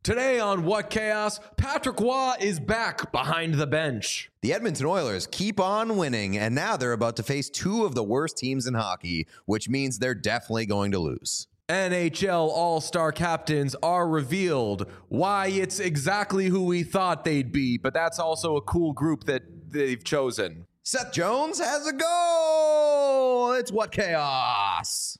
Today on What Chaos, Patrick Waugh is back behind the bench. The Edmonton Oilers keep on winning, and now they're about to face two of the worst teams in hockey, which means they're definitely going to lose. NHL All-Star captains are revealed. Why, it's exactly who we thought they'd be, but that's also a cool group that they've chosen. Seth Jones has a goal! It's What Chaos!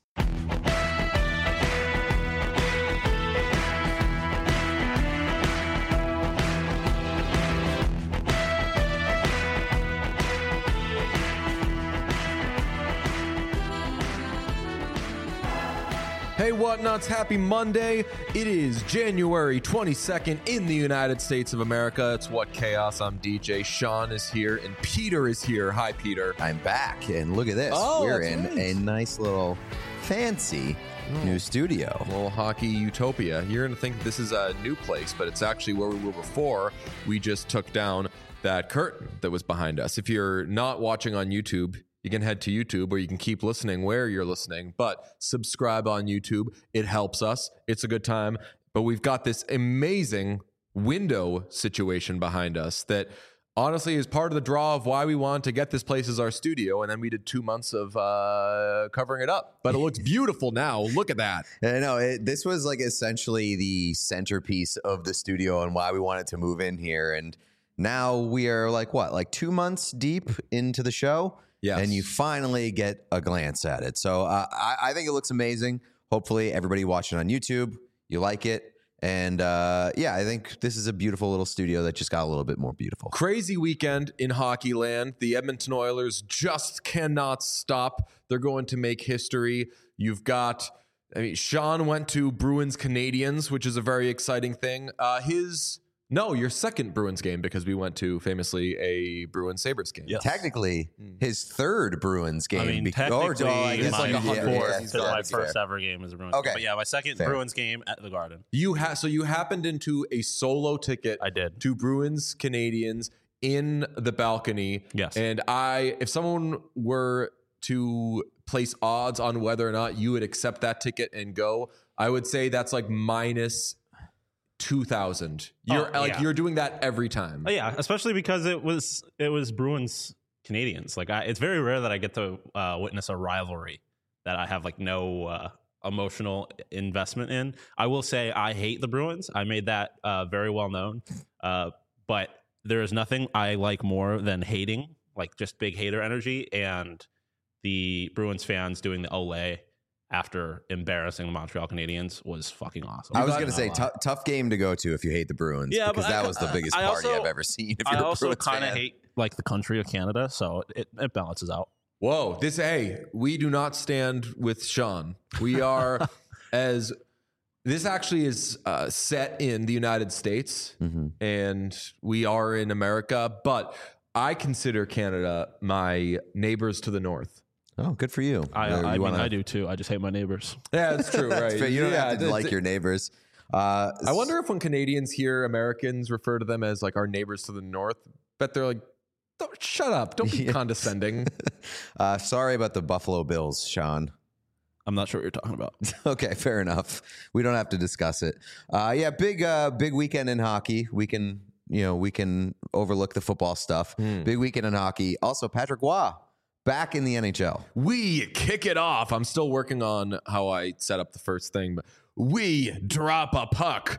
Hey, Whatnuts, happy Monday. It is January 22nd in the United States of America. It's What Chaos. I'm DJ. Sean is here, and Peter is here. Hi, Peter. I'm back, and look at this. We're in a nice little fancy new studio. A little hockey utopia. You're going to think this is a new place, but it's actually where we were before. We just took down that curtain that was behind us. If you're not watching on YouTube, you can head to YouTube, or you can keep listening where you're listening, but subscribe on YouTube. It helps us. It's a good time. But we've got this amazing window situation behind us that honestly is part of the draw of why we wanted to get this place as our studio. And then we did 2 months of covering it up. But it looks beautiful now. Look at that. I know. This was like essentially the centerpiece of the studio and why we wanted to move in here. And now we are like 2 months deep into the show. Yes. And you finally get a glance at it. So I think it looks amazing. Hopefully everybody watching on YouTube, you like it. And I think this is a beautiful little studio that just got a little bit more beautiful. Crazy weekend in hockey land. The Edmonton Oilers just cannot stop. They're going to make history. You've got, Sean went to Bruins Canadiens, which is a very exciting thing. Your second Bruins game, because we went to famously a Bruins Sabres game. Yes. Technically, his third Bruins game. Technically, my first ever game as a Bruins. Okay. But yeah, my second Bruins game at the Garden. So you happened into a solo ticket. I did. To Bruins Canadiens in the balcony. Yes. And if someone were to place odds on whether or not you would accept that ticket and go, I would say that's like minus 2,000. You're doing that every time. Oh, yeah, especially because it was Bruins Canadiens. It's very rare that I get to witness a rivalry that I have no emotional investment in. I will say I hate the Bruins. I made that very well known. But there is nothing I like more than hating, just big hater energy, and the Bruins fans doing the Olay after embarrassing the Montreal Canadiens was fucking awesome. I was going to say, tough game to go to if you hate the Bruins, because that was the biggest party I've ever seen. I also kind of hate the country of Canada, so it balances out. Whoa, we do not stand with Sean. We are this actually is set in the United States, and we are in America, but I consider Canada my neighbors to the north. Oh, good for you. I do too. I just hate my neighbors. Yeah, that's true, right? You don't have to like your neighbors. I wonder if when Canadians hear Americans refer to them as our neighbors to the north, bet they're like, shut up. Don't be condescending. Sorry about the Buffalo Bills, Sean. I'm not sure what you're talking about. Okay, fair enough. We don't have to discuss it. Big weekend in hockey. We can overlook the football stuff. Big weekend in hockey. Also, Patrick Waugh back in the NHL. We kick it off. I'm still working on how I set up the first thing, but we drop a puck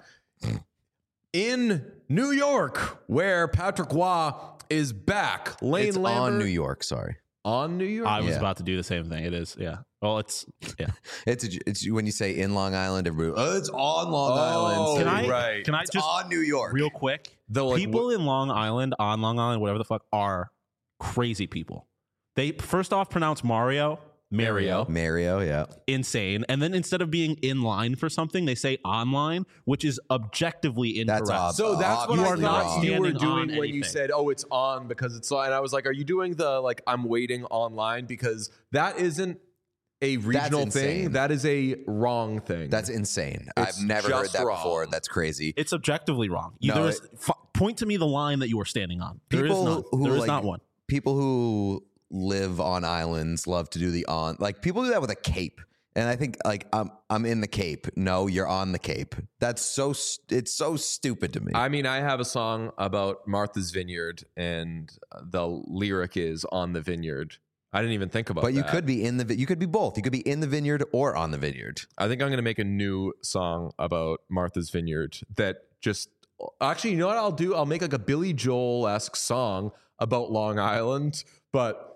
in New York, where Patrick Waugh is back. It's on New York, sorry. On New York? I was about to do the same thing. It is, yeah. Well, it's it's when you say in Long Island, everybody, it's on Long Island. Can I it's just on New York real quick? People in Long Island, on Long Island, whatever the fuck, are crazy people. They first off pronounce Mario, yeah. Insane. And then instead of being in line for something, they say online, which is objectively incorrect. That's so that's what I thought you were doing when you said, it's on because it's on. And I was like, are you doing the I'm waiting online? Because that isn't a regional thing. That is a wrong thing. That's insane. I've never heard that before. That's crazy. It's objectively wrong. Point to me the line that you are standing on. There is not one. People who live on islands love to do people do that with a cape And I think like I'm in the Cape. No, you're on the Cape. It's so stupid to me. I mean, I have a song about Martha's Vineyard, and the lyric is "on the vineyard." I didn't even think about that. But you could be you could be both. You could be in the vineyard or on the vineyard. I think I'm going to make a new song about Martha's Vineyard that just actually, you know what I'll do? I'll make like a Billy Joel-esque song about Long Island, but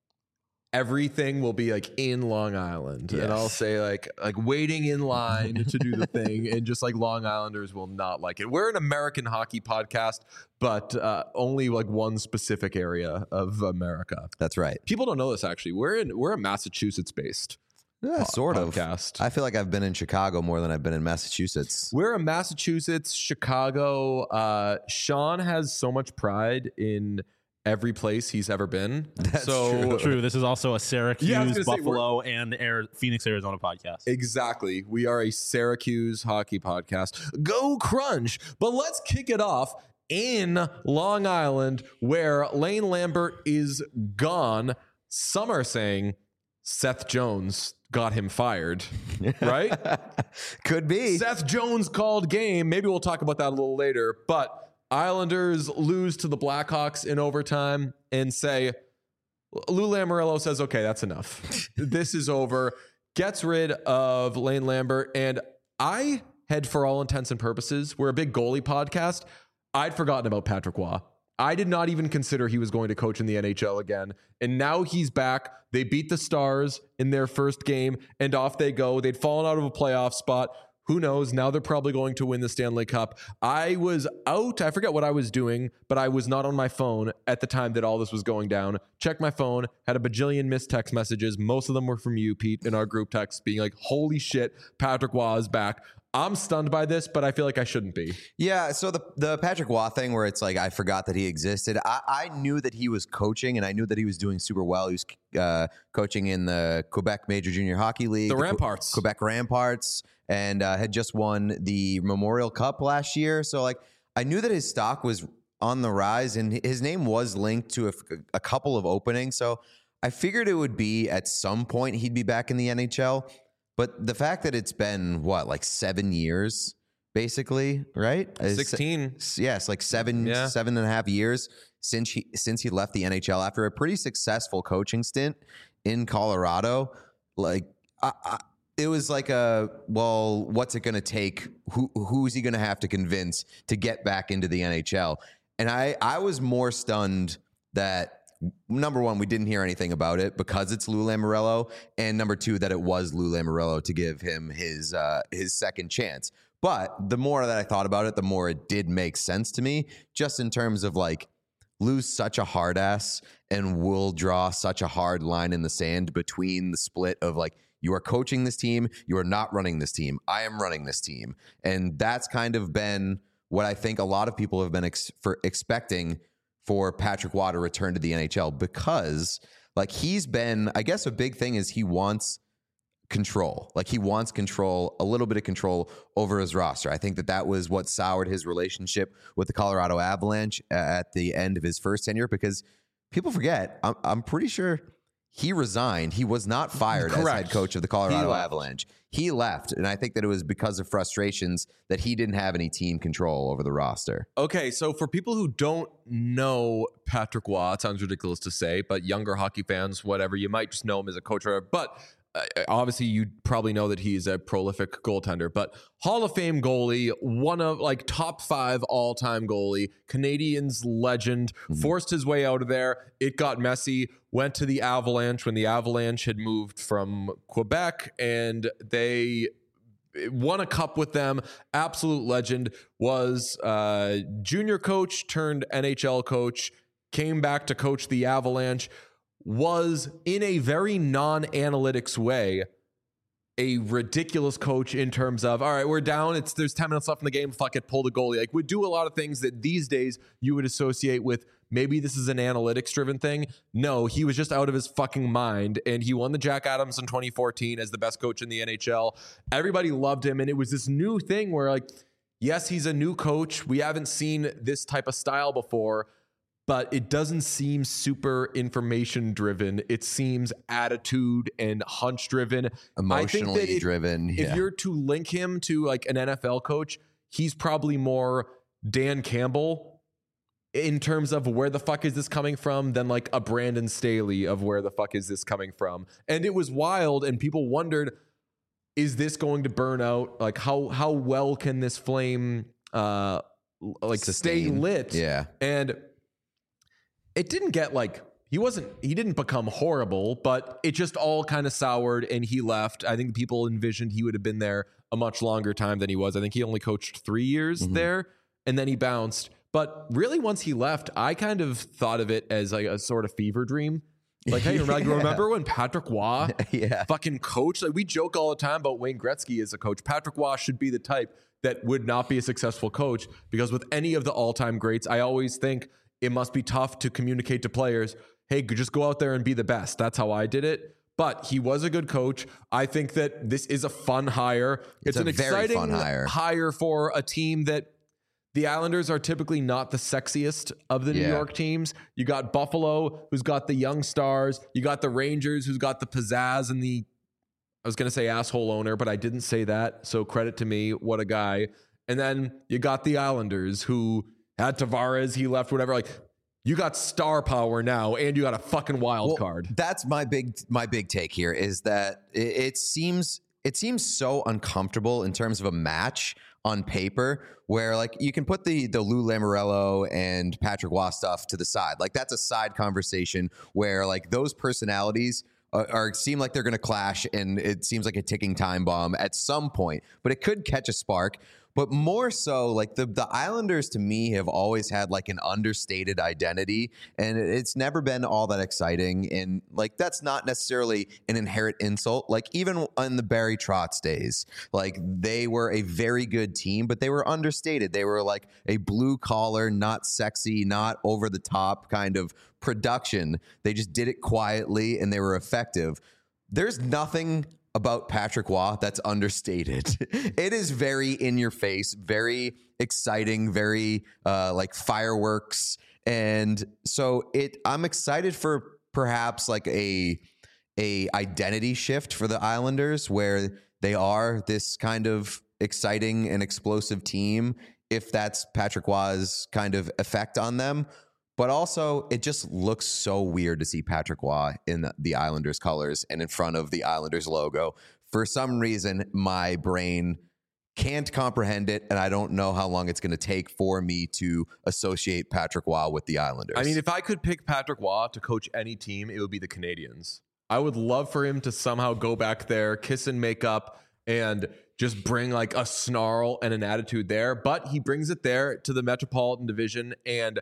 everything will be like in Long Island. Yes. And I'll say like waiting in line to do the thing, and just like Long Islanders will not like it. We're an American hockey podcast, but only like one specific area of America. That's right. People don't know this actually. We're a Massachusetts based sort podcast. of. I feel like I've been in Chicago more than I've been in Massachusetts. We're a Massachusetts, Chicago. Sean has so much pride in every place he's ever been. That's true. True. This is also a Syracuse, Yeah, I was gonna say, Buffalo, and Phoenix, Arizona podcast. Exactly. We are a Syracuse hockey podcast. Go Crunch. But let's kick it off in Long Island, where Lane Lambert is gone. Some are saying Seth Jones got him fired, right? Could be. Seth Jones called game. Maybe we'll talk about that a little later. But Islanders lose to the Blackhawks in overtime and say, Lou Lamoriello says, okay, that's enough. This is over. Gets rid of Lane Lambert. And I had, for all intents and purposes, we're a big goalie podcast. I'd forgotten about Patrick Waugh. I did not even consider he was going to coach in the NHL again. And now he's back. They beat the Stars in their first game, and off they go. They'd fallen out of a playoff spot. Who knows? Now they're probably going to win the Stanley Cup. I was out. I forget what I was doing, but I was not on my phone at the time that all this was going down. Checked my phone, had a bajillion missed text messages. Most of them were from you, Pete, in our group text being like, holy shit, Patrick Waugh is back. I'm stunned by this, but I feel like I shouldn't be. Yeah, so the Patrick Waugh thing where it's like I forgot that he existed. I knew that he was coaching, and I knew that he was doing super well. He was coaching in the Quebec Major Junior Hockey League. The Ramparts. Quebec Ramparts, and had just won the Memorial Cup last year. So like I knew that his stock was on the rise, and his name was linked to a couple of openings. So I figured it would be at some point he'd be back in the NHL. But the fact that it's been, what, like 7 years, basically, right? 16. Yes, like 7.5 years since he left the NHL after a pretty successful coaching stint in Colorado. Like, it was like well, what's it going to take? Who's he going to have to convince to get back into the NHL? And I was more stunned that, number one, we didn't hear anything about it because it's Lou Lamoriello, and number two, that it was Lou Lamoriello to give him his second chance. But the more that I thought about it, the more it did make sense to me, just in terms of like Lou's such a hard ass and will draw such a hard line in the sand between the split of like, you are coaching this team, you are not running this team, I am running this team. And that's kind of been what I think a lot of people have been expecting for Patrick Waugh to return to the NHL, because like he's been, I guess a big thing is he wants control. Like he wants control, a little bit of control over his roster. I think that was what soured his relationship with the Colorado Avalanche at the end of his first tenure, because people forget, I'm pretty sure he resigned. He was not fired as head coach of the Colorado Avalanche. He left, and I think that it was because of frustrations that he didn't have any team control over the roster. Okay, so for people who don't know Patrick Waugh, it sounds ridiculous to say, but younger hockey fans, whatever, you might just know him as a coach. But obviously, you probably know that he's a prolific goaltender. But Hall of Fame goalie, one of like top 5 all-time goalie, Canadiens legend, forced his way out of there. It got messy. Went to the Avalanche when the Avalanche had moved from Quebec, and they won a cup with them. Absolute legend. Was junior coach turned NHL coach, came back to coach the Avalanche, was in a very non-analytics way a ridiculous coach in terms of, all right, we're down, there's 10 minutes left in the game, fuck it, pull the goalie. Like, would do a lot of things that these days you would associate with maybe this is an analytics driven thing. No, he was just out of his fucking mind, and he won the Jack Adams in 2014 as the best coach in the NHL. Everybody loved him, and it was this new thing where like, yes, he's a new coach. We haven't seen this type of style before, but it doesn't seem super information driven. It seems attitude and hunch driven, Emotionally driven. If you're to link him to like an NFL coach, he's probably more Dan Campbell in terms of where the fuck is this coming from than like a Brandon Staley of where the fuck is this coming from. And it was wild, and people wondered, is this going to burn out? Like how well can this flame like stay lit? Yeah. And it didn't get like he didn't become horrible, but it just all kind of soured and he left. I think people envisioned he would have been there a much longer time than he was. I think he only coached 3 years there, and then he bounced. But really, once he left, I kind of thought of it as like a sort of fever dream. Like, hey, remember when Patrick Waugh fucking coached? Like, we joke all the time about Wayne Gretzky as a coach. Patrick Waugh should be the type that would not be a successful coach, because with any of the all-time greats, I always think it must be tough to communicate to players, hey, just go out there and be the best. That's how I did it. But he was a good coach. I think that this is a fun hire. It's an exciting fun hire for a team that the Islanders are typically not the sexiest of the New York teams. You got Buffalo, who's got the young stars. You got the Rangers, who's got the pizzazz and the, I was going to say asshole owner, but I didn't say that. So credit to me. What a guy. And then you got the Islanders, who had Tavares. He left, whatever. Like, you got star power now, and you got a fucking wild card. That's my big take here, is that it seems so uncomfortable in terms of a match on paper, where like you can put the Lou Lamoriello and Patrick Waugh stuff to the side. Like, that's a side conversation where like those personalities seem like they're going to clash, and it seems like a ticking time bomb at some point, but it could catch a spark. But more so, like the Islanders to me have always had like an understated identity, and it's never been all that exciting. And like, that's not necessarily an inherent insult. Like, even in the Barry Trotz days, like they were a very good team, but they were understated. They were like a blue collar, not sexy, not over the top kind of production. They just did it quietly, and they were effective. There's nothing about Patrick Waugh that's understated. It is very in your face, very exciting, very like fireworks. And so I'm excited for perhaps like a identity shift for the Islanders, where they are this kind of exciting and explosive team, if that's Patrick Waugh's kind of effect on them. But also, it just looks so weird to see Patrick Waugh in the Islanders colors and in front of the Islanders logo. For some reason, my brain can't comprehend it, and I don't know how long it's going to take for me to associate Patrick Waugh with the Islanders. I mean, if I could pick Patrick Waugh to coach any team, it would be the Canadiens. I would love for him to somehow go back there, kiss and make up, and just bring like a snarl and an attitude there. But he brings it there to the Metropolitan Division, and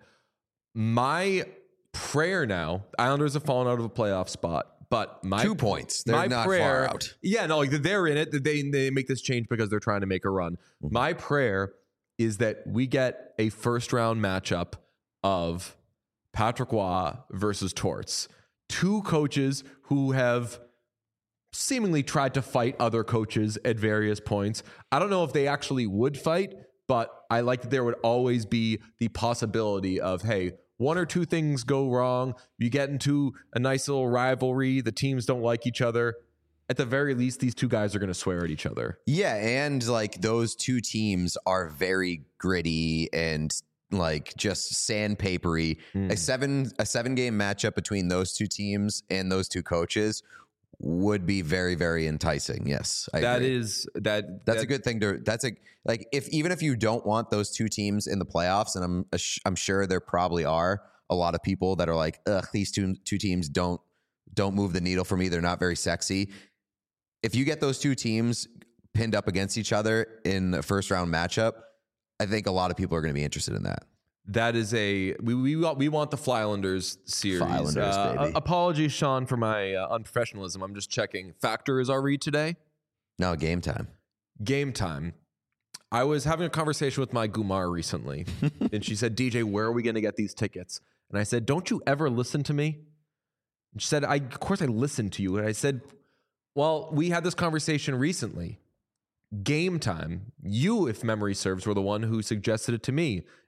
my prayer now, the Islanders have fallen out of a playoff spot, but 2 points. They're not far out. Yeah, no, like they're in it. They make this change because they're trying to make a run. Mm-hmm. My prayer is that we get a first round matchup of Patrick Waugh versus Torts. Two coaches who have seemingly tried to fight other coaches at various points. I don't know if they actually would fight, but I like that there would always be the possibility of, hey, one or two things go wrong. You get into a nice little rivalry. The teams don't like each other. At the very least, these two guys are going to swear at each other. Yeah, and like those two teams are very gritty and like just sandpapery. A seven game matchup between those two teams and those two coaches would be very, very enticing. Yes, I agree. That's a good thing to. That's a like even if you don't want those two teams in the playoffs, and I'm sure there probably are a lot of people that are like, ugh, these two teams don't move the needle for me. They're not very sexy. If you get those two teams pinned up against each other in a first round matchup, I think a lot of people are going to be interested in that. That is we want the Flylanders series. Flylanders, baby. Apologies, Sean, for my unprofessionalism. I'm just checking. Factor is our read today? No, game time. Game time. I was having a conversation with my Gumar recently, and she said, DJ, where are we going to get these tickets? And I said, don't you ever listen to me? And she said, of course I listen to you. And I said, well, we had this conversation recently. Game time. You, if memory serves, were the one who suggested it to me.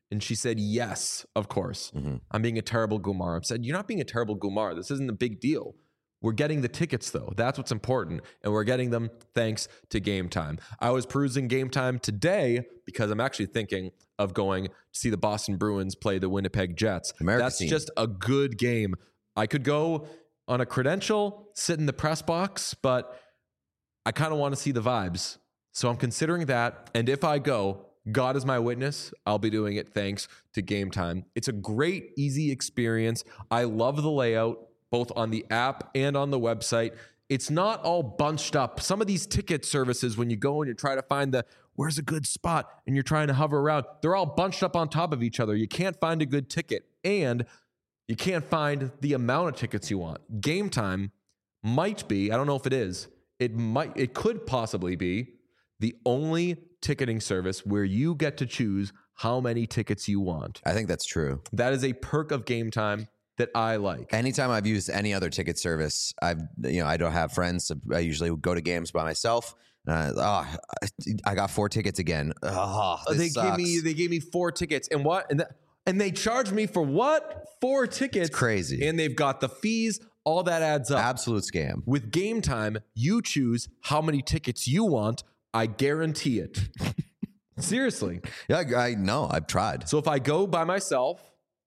And she said, yes, of course. I'm being a terrible Gumar. I said, you're not being a terrible Gumar. This isn't a big deal. We're getting the tickets, though. That's what's important. And we're getting them thanks to Game Time. I was perusing Game Time today because I'm actually thinking of going to see the Boston Bruins play the Winnipeg Jets. That's team. just a good game. I could go on a credential, sit in the press box, but I kind of want to see the vibes. So I'm considering that. And if I go, God is my witness, I'll be doing it thanks to Game Time. It's a great, easy experience. I love the layout, both on the app and on the website. It's not all bunched up. Some of these ticket services, when you go and you try to find where's a good spot and you're trying to hover around, they're all bunched up on top of each other. You can't find a good ticket and you can't find the amount of tickets you want. Game Time might be, I don't know if it is, it could possibly be the only ticketing service where you get to choose how many tickets you want. I think that's true. That is a perk of Game Time that I like. Anytime I've used any other ticket service, I don't have friends. So I usually go to games by myself. I got 4 tickets again. They gave me 4 tickets, and what? And they charged me for what? 4 tickets. It's crazy. And they've got the fees. All that adds up. Absolute scam. With Game Time, you choose how many tickets you want. I guarantee it. Seriously. Yeah, I know. I've tried. So if I go by myself,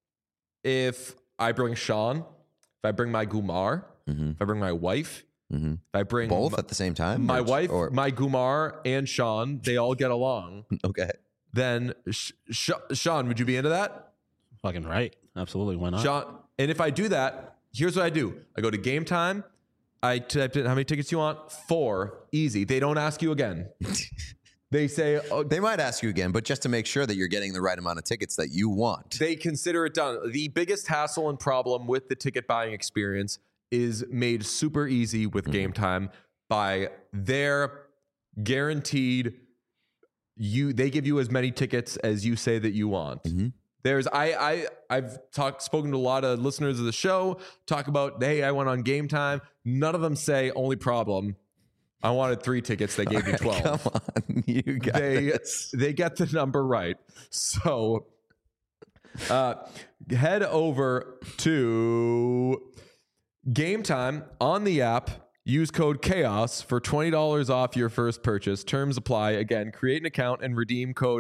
if I bring Sean, if I bring my Gumar, if I bring my wife, if I bring both at the same time, my wife, my Gumar, and Sean, they all get along. Okay. Then Sean, would you be into that? Fucking right. Absolutely. Why not? Sean, and if I do that, here's what I do. I go to Game Time. I typed in how many tickets you want. 4. Easy. They don't ask you again. They say... they might ask you again, but just to make sure that you're getting the right amount of tickets that you want. They consider it done. The biggest hassle and problem with the ticket buying experience is made super easy with Game Time by their guaranteed... They give you as many tickets as you say that you want. I've spoken to a lot of listeners of the show, talk about, hey, I went on Game Time. None of them say only problem. I wanted 3 tickets. They gave me 12. Come on, you guys. They get the number right. So head over to Game Time on the app. Use code CHAOS for $20 off your first purchase. Terms apply. Again, create an account and redeem code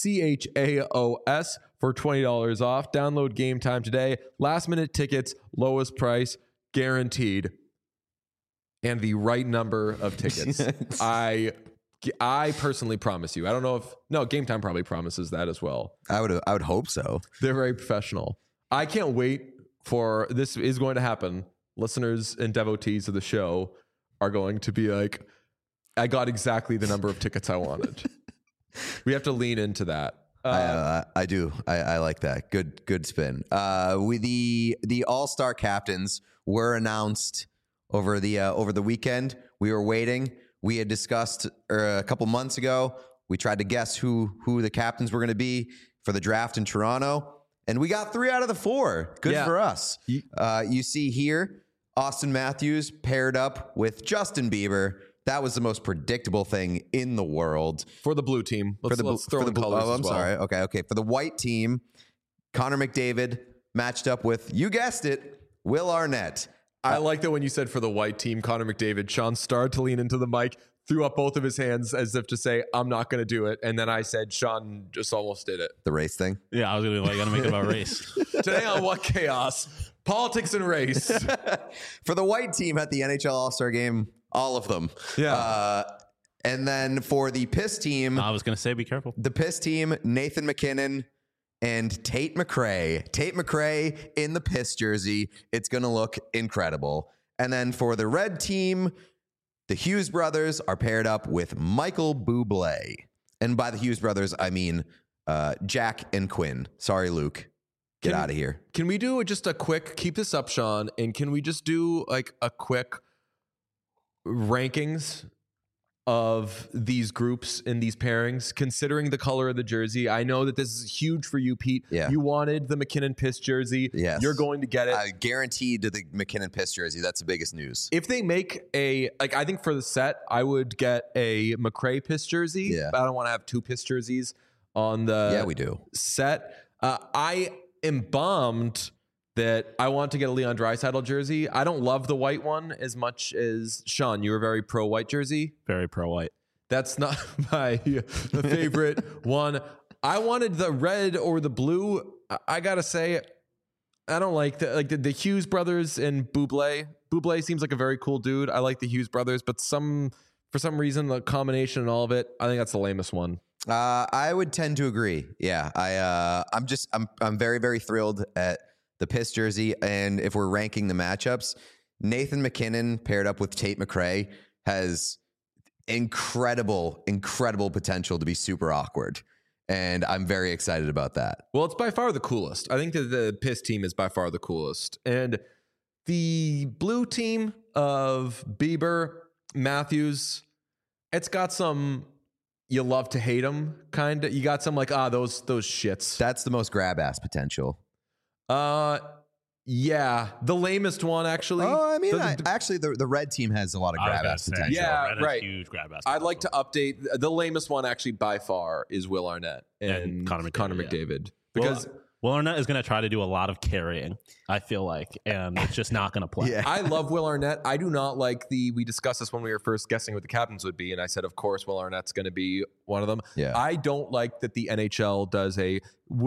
CHAOS for $20 off. Download Game Time today. Last minute tickets, lowest price, guaranteed. And the right number of tickets. I personally promise you. I don't know if Game Time probably promises that as well. I would hope so. They're very professional. I can't wait for this is going to happen. Listeners and devotees of the show are going to be like, I got exactly the number of tickets I wanted. We have to lean into that. I do. I like that. Good spin. The All-Star captains were announced over the weekend. We were waiting. We had discussed a couple months ago. We tried to guess who the captains were going to be for the draft in Toronto, and we got 3 out of the 4. Good for us. You see here, Austin Matthews paired up with Justin Bieber. That was the most predictable thing in the world. For the blue team. Let's throw in colors I'm as well. sorry. Okay. For the white team, Connor McDavid matched up with, you guessed it, Will Arnett. I like that when you said for the white team, Connor McDavid, Sean started to lean into the mic, threw up both of his hands as if to say, I'm not going to do it. And then I said, Sean just almost did it. The race thing? Yeah, I was going to be like, got to make it about race. Today on What Chaos? Politics and race. For the white team at the NHL All-Star Game, all of them. Yeah. And then for the piss team... I was going to say, be careful. The piss team, Nathan McKinnon and Tate McRae. Tate McRae in the piss jersey. It's going to look incredible. And then for the red team, the Hughes brothers are paired up with Michael Bublé. And by the Hughes brothers, I mean Jack and Quinn. Sorry, Luke. Get out of here. Can we do just a quick, keep this up, Sean, and can we just do like a quick rankings of these groups in these pairings, considering the color of the jersey? I know that this is huge for you, Pete. Yeah. You wanted the McKinnon piss jersey. Yes. You're going to get it. Guaranteed to the McKinnon piss jersey. That's the biggest news. If they make I think for the set, I would get a McRae piss jersey. Yeah. But I don't want to have 2 piss jerseys on the we do. set. I am bummed that I want to get a Leon Draisaitl jersey. I don't love the white one as much as Sean. You were very pro white jersey. Very pro white. That's not my favorite one. I wanted the red or the blue. I gotta say, I don't like the Hughes brothers and Buble. Buble seems like a very cool dude. I like the Hughes brothers, but for some reason, the combination and all of it, I think that's the lamest one. I would tend to agree. Yeah, I'm very, very thrilled at the Piss jersey. And if we're ranking the matchups, Nathan McKinnon paired up with Tate McRae has incredible potential to be super awkward. And I'm very excited about that. Well, it's by far the coolest. I think that the Piss team is by far the coolest. And the blue team of Bieber, Matthews, it's got some you love to hate them kind of. You got some like, those shits. That's the most grab ass potential. Yeah, the lamest one actually. Oh, I mean, actually, the red team has a lot of grab ass potential. Yeah, red right. Huge grab ass. I'd like to update the lamest one actually by far is Will Arnett and Connor McDavid. Because Will Arnett is going to try to do a lot of carrying, I feel like, and it's just not going to play. Yeah. I love Will Arnett. I do not like we discussed this when we were first guessing what the captains would be, and I said, of course, Will Arnett's going to be one of them. Yeah. I don't like that the NHL does the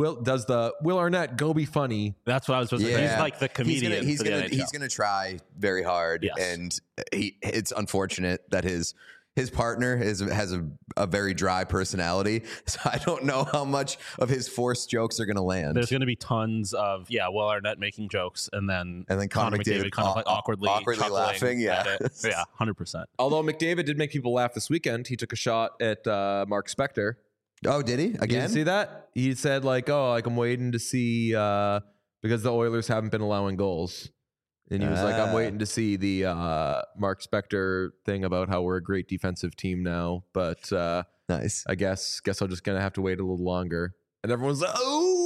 Will Arnett go be funny. That's what I was supposed to say. He's like the comedian. He's for the gonna NHL. try very hard, Yes. and it's unfortunate that his partner has a very dry personality. So I don't know how much of his forced jokes are going to land. There's going to be tons of Will Arnett making jokes, and then Connor McDavid kind of like awkwardly laughing. Yeah, yeah, 100%. Although McDavid did make people laugh this weekend, he took a shot at Mark Spector. Oh, did he You again? didn't see that? He said I'm waiting to see because the Oilers haven't been allowing goals. And he was like, I'm waiting to see the Mark Spector thing about how we're a great defensive team now. But Nice. I guess I'm just gonna have to wait a little longer. And everyone's like,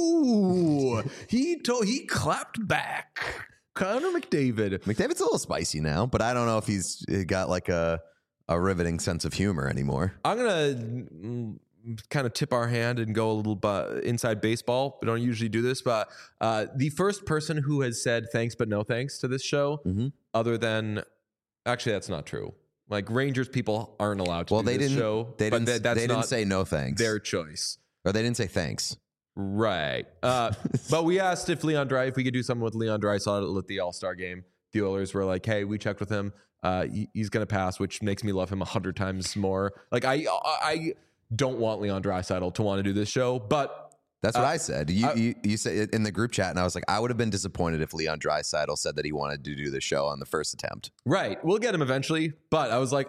oh, he clapped back. Connor McDavid. McDavid's a little spicy now, but I don't know if he's got like a riveting sense of humor anymore. I'm gonna kind of tip our hand and go a little inside baseball. We don't usually do this, but the first person who has said thanks but no thanks to this show, other than actually that's not true. Like Rangers people aren't allowed to do this show. They didn't say no thanks. Their choice. Or they didn't say thanks. Right. But we asked if we could do something with Leon Draisaitl at the All-Star game. The Oilers were like, hey, we checked with him. He's going to pass, which makes me love him 100 times more. Like I don't want Leon Draisaitl to want to do this show, but that's what I said. You said in the group chat, and I was like, I would have been disappointed if Leon Draisaitl said that he wanted to do the show on the first attempt. Right, we'll get him eventually. But I was like,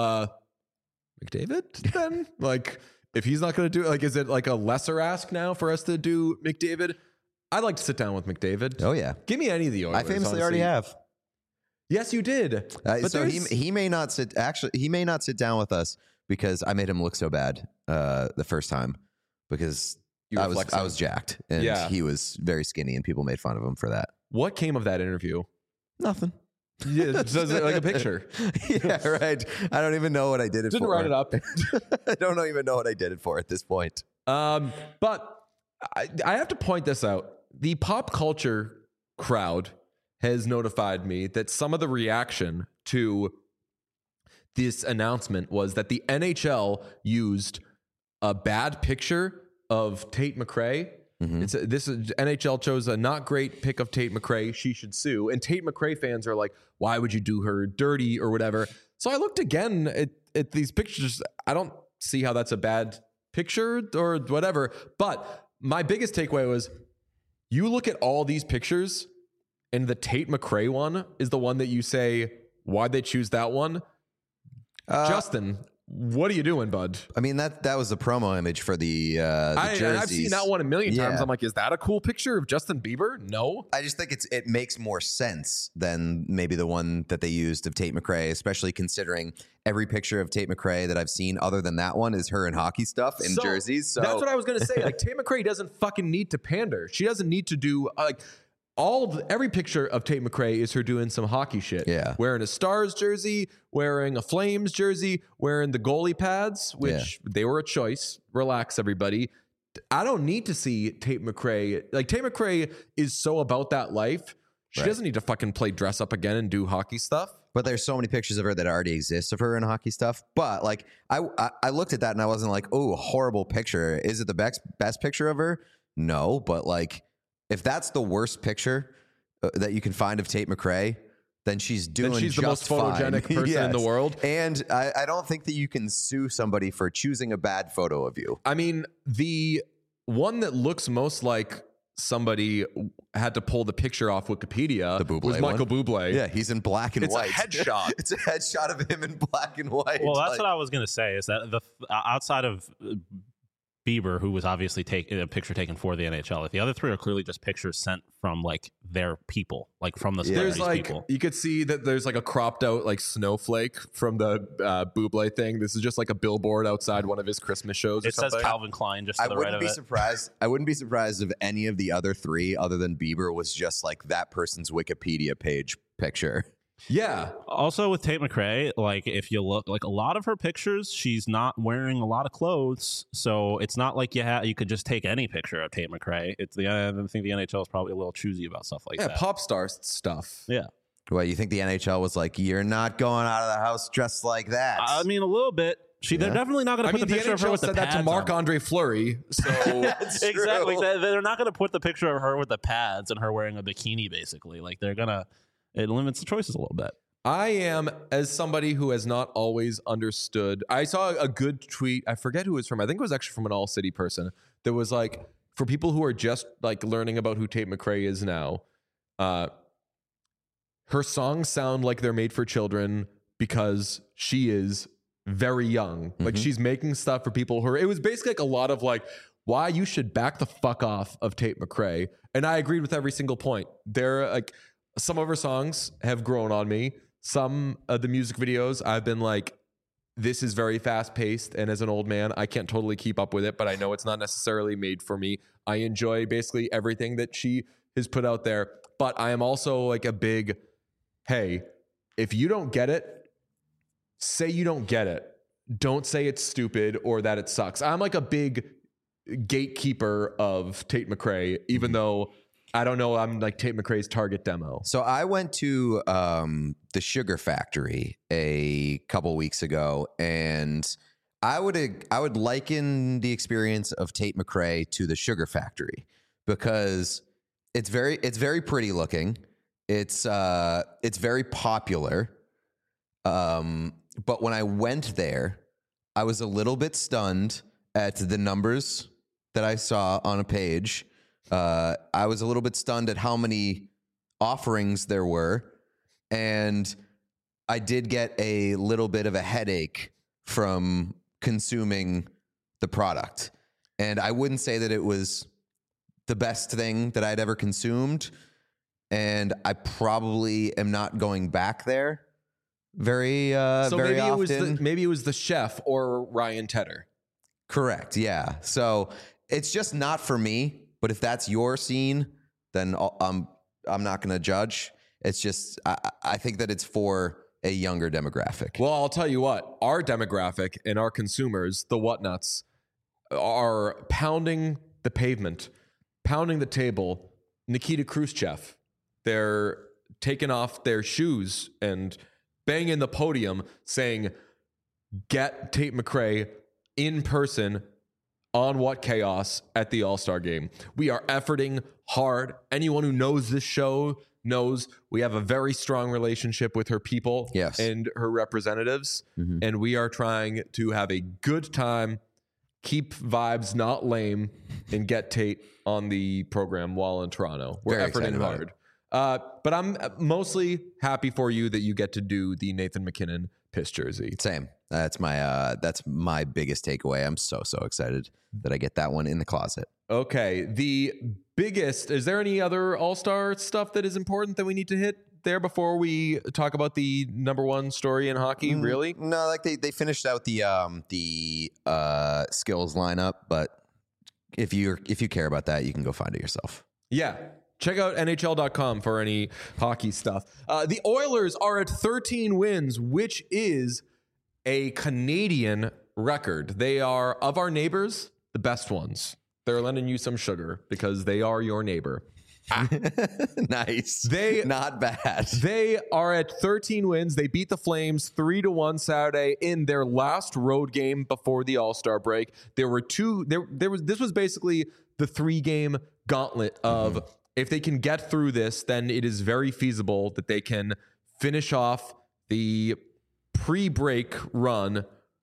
McDavid then? Like, if he's not going to do it, like, is it like a lesser ask now for us to do McDavid? I'd like to sit down with McDavid. Oh yeah, give me any of the Oilers. I famously already have. Yes, you did. But so he may not sit. Actually, he may not sit down with us because I made him look so bad the first time because I was jacked and he was very skinny and people made fun of him for that. What came of that interview? Nothing. Yeah, does it like a picture? Yeah, right. I don't even know what I did it for. Didn't write it up. I don't even know what I did it for at this point. But I have to point this out. The pop culture crowd has notified me that some of the reaction to this announcement was that the NHL used a bad picture of Tate McRae. NHL chose a not great pic of Tate McRae. She should sue. And Tate McRae fans are like, why would you do her dirty or whatever? So I looked again at these pictures. I don't see how that's a bad picture or whatever. But my biggest takeaway was you look at all these pictures and the Tate McRae one is the one that you say, why'd they choose that one? Justin, what are you doing, bud? I mean, that was the promo image for the jerseys. And I've seen that one a million times. I'm like, is that a cool picture of Justin Bieber? No. I just think it makes more sense than maybe the one that they used of Tate McRae, especially considering every picture of Tate McRae that I've seen other than that one is her in hockey stuff in jerseys. So that's what I was going to say. Like, Tate McRae doesn't fucking need to pander. She doesn't need to do every picture of Tate McRae is her doing some hockey shit. Yeah. Wearing a Stars jersey, wearing a Flames jersey, wearing the goalie pads, which they were a choice. Relax, everybody. I don't need to see Tate McRae. Like, Tate McRae is so about that life. She doesn't need to fucking play dress up again and do hockey stuff. But there's so many pictures of her that already exist of her in hockey stuff. But like, I looked at that and I wasn't like, oh, horrible picture. Is it the best picture of her? No. But like, if that's the worst picture that you can find of Tate McRae, then she's doing then she's the most photogenic fine. person in the world. And I don't think that you can sue somebody for choosing a bad photo of you. I mean, the one that looks most like somebody had to pull the picture off Wikipedia was Michael Bublé. Yeah, he's in black and white. It's a headshot. It's a headshot of him in black and white. Well, that's what I was going to say, is that the outside of Bieber, who was obviously a picture taken for the NHL, if the other three are clearly just pictures sent from like their people, like from the celebrities' people. You could see that there's like a cropped out like snowflake from the Bublé thing. This is just like a billboard outside one of his Christmas shows. It says Calvin Klein just to the right of it. I wouldn't be surprised if any of the other three, other than Bieber, was just like that person's Wikipedia page picture. Yeah. Also with Tate McRae, like if you look, like a lot of her pictures, she's not wearing a lot of clothes, so it's not like you could just take any picture of Tate McRae. I think the NHL is probably a little choosy about stuff like that. Yeah, pop star stuff. Yeah. Well, you think the NHL was like, you're not going out of the house dressed like that? I mean, a little bit. They're definitely not going to put the picture of her with the pads. Said that to Marc-Andre Fleury. So exactly, they're not going to put the picture of her with the pads and her wearing a bikini. Basically, like they're gonna. It limits the choices a little bit. I am, as somebody who has not always understood, I saw a good tweet. I forget who it was from. I think it was actually from an All City person that was like, for people who are just like learning about who Tate McRae is now, her songs sound like they're made for children because she is very young. Like she's making stuff for people who are, it was basically like a lot of like, why you should back the fuck off of Tate McRae. And I agreed with every single point. They're like, some of her songs have grown on me. Some of the music videos, I've been like, this is very fast paced. And as an old man, I can't totally keep up with it, but I know it's not necessarily made for me. I enjoy basically everything that she has put out there. But I am also like a big, hey, if you don't get it, say you don't get it. Don't say it's stupid or that it sucks. I'm like a big gatekeeper of Tate McRae, even though I don't know, I'm like Tate McRae's target demo. So I went to the Sugar Factory a couple weeks ago, and I would liken the experience of Tate McRae to the Sugar Factory because it's very pretty looking. It's very popular. But when I went there, I was a little bit stunned at the numbers that I saw on a page. I was a little bit stunned at how many offerings there were, and I did get a little bit of a headache from consuming the product. And I wouldn't say that it was the best thing that I'd ever consumed, and I probably am not going back there very often. Maybe it was the chef or Ryan Tedder. Correct, yeah. So it's just not for me. But if that's your scene, then I'm not going to judge. It's just I think that it's for a younger demographic. Well, I'll tell you what, our demographic and our consumers, the whatnuts, are pounding the pavement, pounding the table. Nikita Khrushchev, they're taking off their shoes and banging the podium saying, get Tate McRae in person on What Chaos at the All-Star Game. We are efforting hard. Anyone who knows this show knows we have a very strong relationship with her people and her representatives. Mm-hmm. And we are trying to have a good time, keep vibes not lame, and get Tate on the program while in Toronto. We're efforting hard. But I'm mostly happy for you that you get to do the Nathan MacKinnon piss jersey. Same. That's my biggest takeaway. I'm so excited that I get that one in the closet. Okay. The biggest, is there any other All-Star stuff that is important that we need to hit there before we talk about the number one story in hockey? Really? No, like they finished out the skills lineup, but if you care about that, you can go find it yourself. Yeah. Check out NHL.com for any hockey stuff. The Oilers are at 13 wins, which is a Canadian record. They are, of our neighbors, the best ones. They're lending you some sugar because they are your neighbor. Nice. Not bad. They are at 13 wins. They beat the Flames 3-1 Saturday in their last road game before the All-Star break. There were two. This was basically the 3-game gauntlet of if they can get through this, then it is very feasible that they can finish off the pre-break run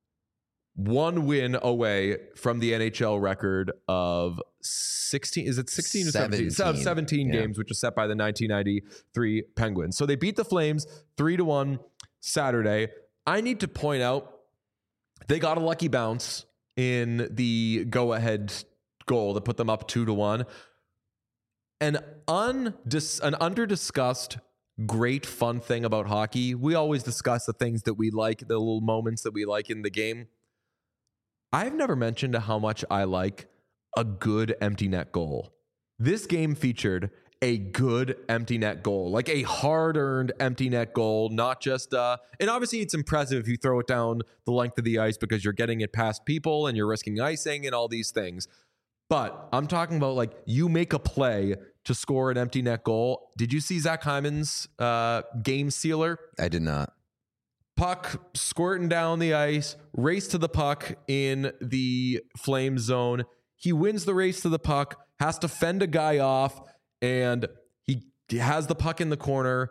1 win away from the NHL record of 16. Is it 16 or 17? 17 games, which was set by the 1993 Penguins. So they beat the Flames 3-1 Saturday. I need to point out they got a lucky bounce in the go-ahead goal that put them up 2-1. An under-discussed great fun thing about hockey. We always discuss the things that we like, the little moments that we like in the game. I've never mentioned how much I like a good empty net goal. This game featured a good empty net goal, like a hard-earned empty net goal, not just and obviously it's impressive if you throw it down the length of the ice because you're getting it past people and you're risking icing and all these things. But I'm talking about like you make a play to score an empty net goal. Did you see Zach Hyman's game sealer? I did not. Puck squirting down the ice, race to the puck in the Flame zone. He wins the race to the puck, has to fend a guy off, and he has the puck in the corner,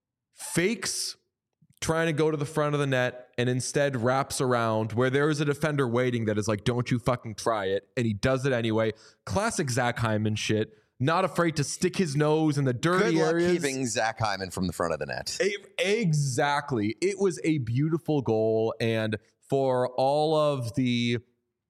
fakes trying to go to the front of the net, and instead wraps around where there is a defender waiting that is like, don't you fucking try it. And he does it anyway. Classic Zach Hyman shit. Not afraid to stick his nose in the dirty areas. Good luck keeping Zach Hyman from the front of the net. Exactly. It was a beautiful goal. And for all, I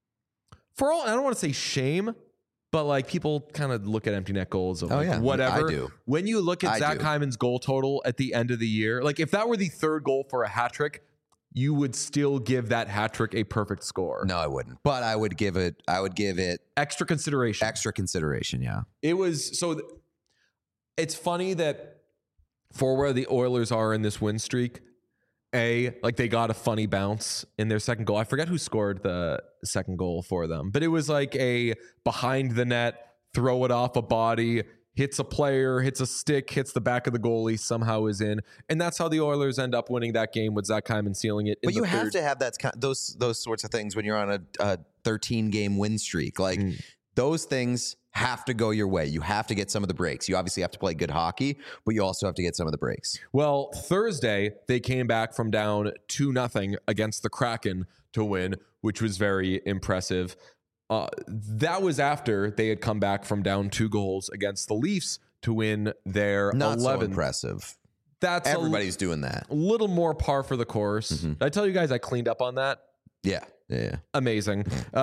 don't want to say shame, but like people kind of look at empty net goals of whatever. I do. When you look at Zach Hyman's goal total at the end of the year, like if that were the third goal for a hat trick, you would still give that hat trick a perfect score. No, I wouldn't. But I would give it extra consideration. Yeah. It was it's funny that for where the Oilers are in this win streak, like they got a funny bounce in their second goal. I forget who scored the second goal for them, but it was like a behind the net, throw it off a body, hits a player, hits a stick, hits the back of the goalie, somehow is in. And that's how the Oilers end up winning that game with Zach Hyman sealing it. But you have to have those sorts of things when you're on a 13-game win streak. Like those things have to go your way. You have to get some of the breaks. You obviously have to play good hockey, but you also have to get some of the breaks. Well, Thursday, they came back from down 2-0 against the Kraken to win, which was very impressive. That was after they had come back from down 2 goals against the Leafs to win their 11th. Not so impressive. That's everybody's doing that. A little more par for the course. Did I tell you guys I cleaned up on that? Yeah. Amazing.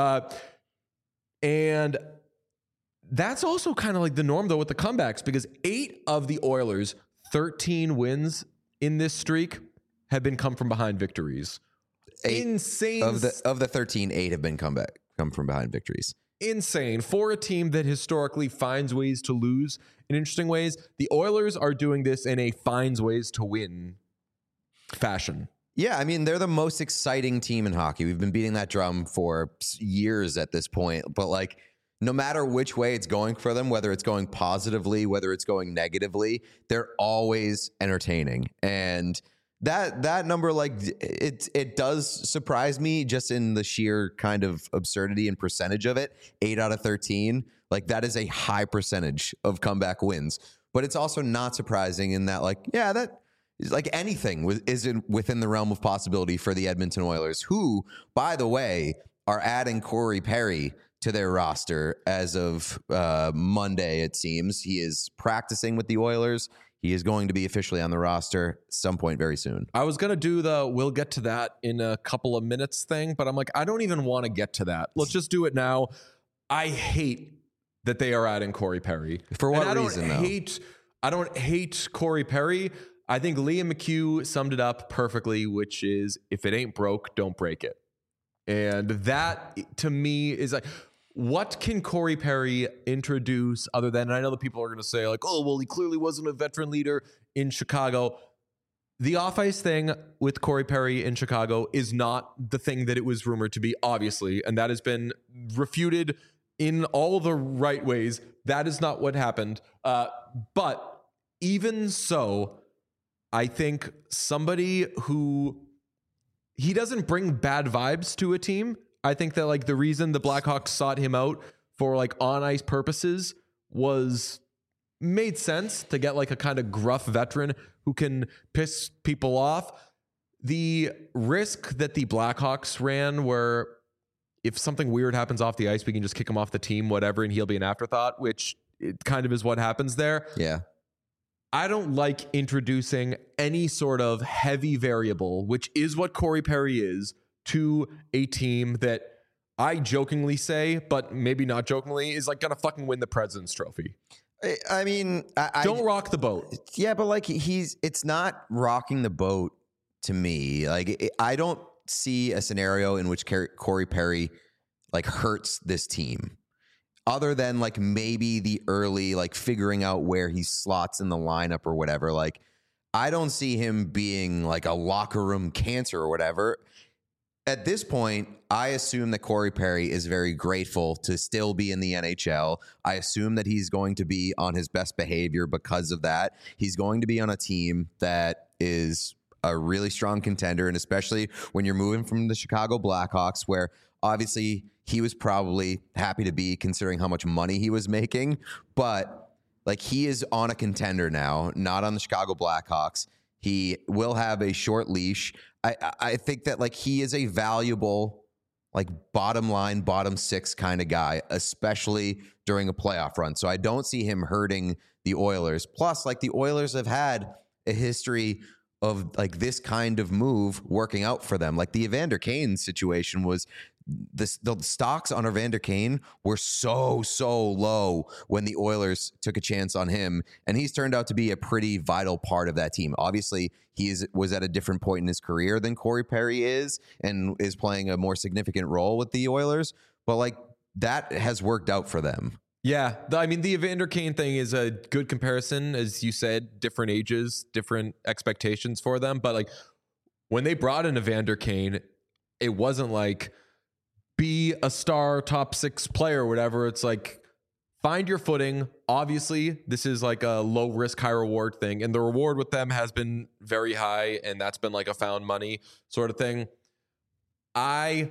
And that's also kind of like the norm though with the comebacks because 8 of the Oilers' 13 wins in this streak have been come from behind victories. Insane. Of the 13, 8 have been come from behind victories. Insane for a team that historically finds ways to lose in interesting ways. The Oilers are doing this in a finds ways to win fashion. Yeah, I mean, they're the most exciting team in hockey. We've been beating that drum for years at this point, but like no matter which way it's going for them, whether it's going positively, whether it's going negatively, they're always entertaining. And that number, like it does surprise me just in the sheer kind of absurdity and percentage of it. 8 out of 13, like that is a high percentage of comeback wins. But it's also not surprising in that, like, yeah, that is like anything is within the realm of possibility for the Edmonton Oilers, who, by the way, are adding Corey Perry to their roster as of Monday. It seems he is practicing with the Oilers. He is going to be officially on the roster at some point very soon. I was going to do we'll get to that in a couple of minutes thing, but I'm like, I don't even want to get to that. Let's just do it now. I hate that they are adding Corey Perry. For what reason, I don't hate Corey Perry. I think Liam McHugh summed it up perfectly, which is if it ain't broke, don't break it. And that to me is like, what can Corey Perry introduce other than, and I know the people are going to say like, oh, well, he clearly wasn't a veteran leader in Chicago. The off-ice thing with Corey Perry in Chicago is not the thing that it was rumored to be, obviously, and that has been refuted in all the right ways. That is not what happened. But even so, I think somebody who he doesn't bring bad vibes to a team. I think that like the reason the Blackhawks sought him out for like on ice purposes made sense to get like a kind of gruff veteran who can piss people off. The risk that the Blackhawks ran where if something weird happens off the ice, we can just kick him off the team, whatever, and he'll be an afterthought, which it kind of is what happens there. Yeah. I don't like introducing any sort of heavy variable, which is what Corey Perry is, to a team that I jokingly say, but maybe not jokingly, is like gonna fucking win the President's Trophy. I mean, Don't rock the boat. Yeah, but like it's not rocking the boat to me. Like I don't see a scenario in which Corey Perry like hurts this team. Other than like maybe the early like figuring out where he slots in the lineup or whatever. Like I don't see him being like a locker room cancer or whatever. At this point, I assume that Corey Perry is very grateful to still be in the NHL. I assume that he's going to be on his best behavior because of that. He's going to be on a team that is a really strong contender, and especially when you're moving from the Chicago Blackhawks, where obviously he was probably happy to be considering how much money he was making, but like he is on a contender now, not on the Chicago Blackhawks. He will have a short leash. I think that like he is a valuable, like bottom line, bottom six kind of guy, especially during a playoff run. So I don't see him hurting the Oilers. Plus, like the Oilers have had a history of like this kind of move working out for them. Like the Evander Kane situation was the stocks on Evander Kane were so low when the Oilers took a chance on him, and he's turned out to be a pretty vital part of that team. Obviously, was at a different point in his career than Corey Perry is, and is playing a more significant role with the Oilers, but like that has worked out for them. Yeah, I mean, the Evander Kane thing is a good comparison. As you said, different ages, different expectations for them. But like when they brought in Evander Kane, it wasn't like be a star top six player or whatever. It's like find your footing. Obviously, this is like a low risk, high reward thing. And the reward with them has been very high. And that's been like a found money sort of thing. I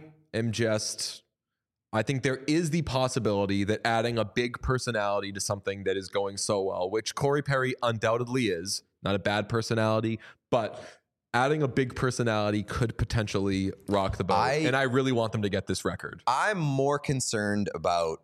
think there is the possibility that adding a big personality to something that is going so well, which Corey Perry undoubtedly is, not a bad personality, but adding a big personality could potentially rock the boat. And I really want them to get this record. I'm more concerned about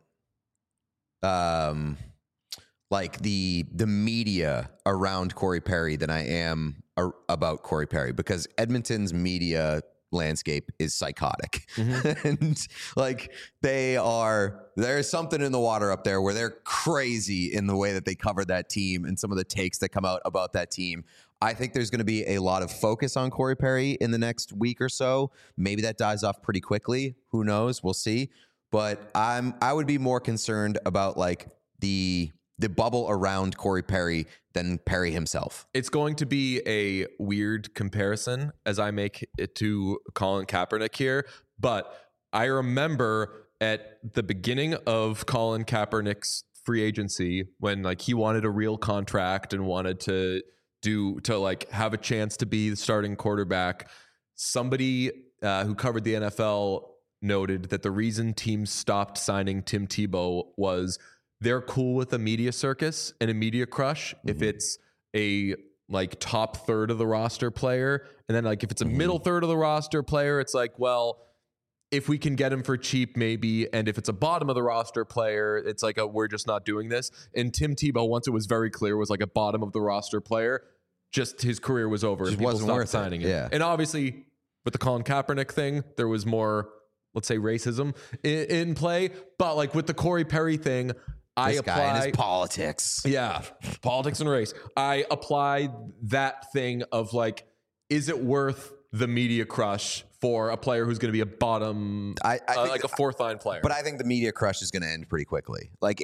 like the media around Corey Perry than I am about Corey Perry, because Edmonton's media landscape is psychotic. And like there's something in the water up there where they're crazy in the way that they cover that team and some of the takes that come out about that team. I think there's going to be a lot of focus on Corey Perry in the next week or so. Maybe that dies off pretty quickly. Who knows? We'll see. But I would be more concerned about like the bubble around Corey Perry than Perry himself. It's going to be a weird comparison as I make it to Colin Kaepernick here, but I remember at the beginning of Colin Kaepernick's free agency when like he wanted a real contract and wanted to like have a chance to be the starting quarterback, somebody who covered the NFL noted that the reason teams stopped signing Tim Tebow was they're cool with a media circus and a media crush if it's a like top third of the roster player. And then like if it's a middle third of the roster player, it's like, well, if we can get him for cheap, maybe. And if it's a bottom of the roster player, it's like we're just not doing this. And Tim Tebow, once it was very clear, was like a bottom of the roster player. Just his career was over. Just and people wasn't stopped worth signing him. Yeah. And obviously with the Colin Kaepernick thing, there was more, let's say, racism in play. But like with the Corey Perry thing, This guy and his politics. Yeah, politics and race. I apply that thing of like, is it worth the media crush for a player who's going to be a bottom, I like a fourth line player? But I think the media crush is going to end pretty quickly. Like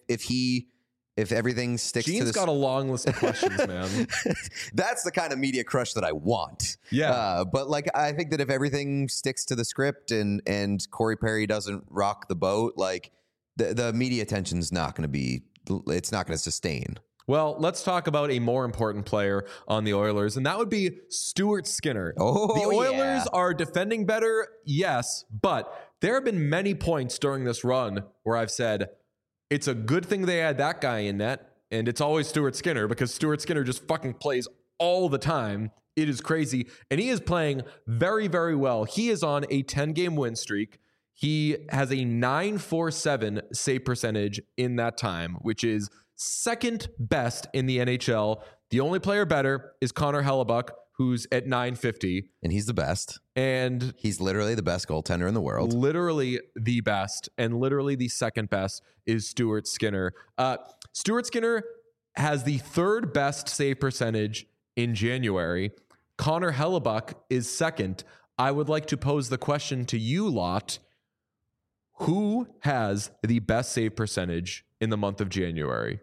if everything sticks to Gene's got a long list of questions, man. That's the kind of media crush that I want. Yeah. But like, I think that if everything sticks to the script and Corey Perry doesn't rock the boat, like the media attention's not going to be. It's not going to sustain. Well, let's talk about a more important player on the Oilers, and that would be Stuart Skinner. Oh, the Oilers yeah. are defending better, yes, but there have been many points during this run where I've said it's a good thing they had that guy in net, and it's always Stuart Skinner because Stuart Skinner just fucking plays all the time. It is crazy, and he is playing very, very well. He is on a 10-game win streak. He has a .947 save percentage in that time, which is second best in the NHL. The only player better is Connor Hellebuck, who's at .950. And he's the best. And he's literally the best goaltender in the world. Literally the best. And literally the second best is Stuart Skinner. Stuart Skinner has the third best save percentage in January. Connor Hellebuck is second. I would like to pose the question to you lot. Who has the best save percentage in the month of January?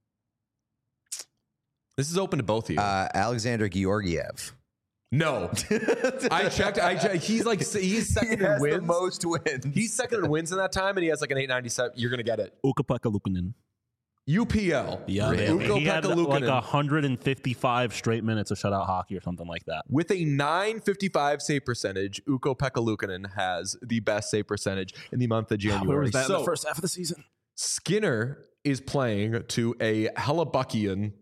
This is open to both of you. Alexander Georgiev. No. I checked. He's second in wins. The most wins. He's second in wins in that time, and he has like an 897. You're going to get it. Ukko-Pekka Luukkonen. UPL. Yeah, he had like 155 straight minutes of shutout hockey or something like that. With a .955 save percentage, Ukko-Pekka Luukkonen has the best save percentage in the month of January. Where was that in the first half of the season? Skinner is playing to a Hellebuckian,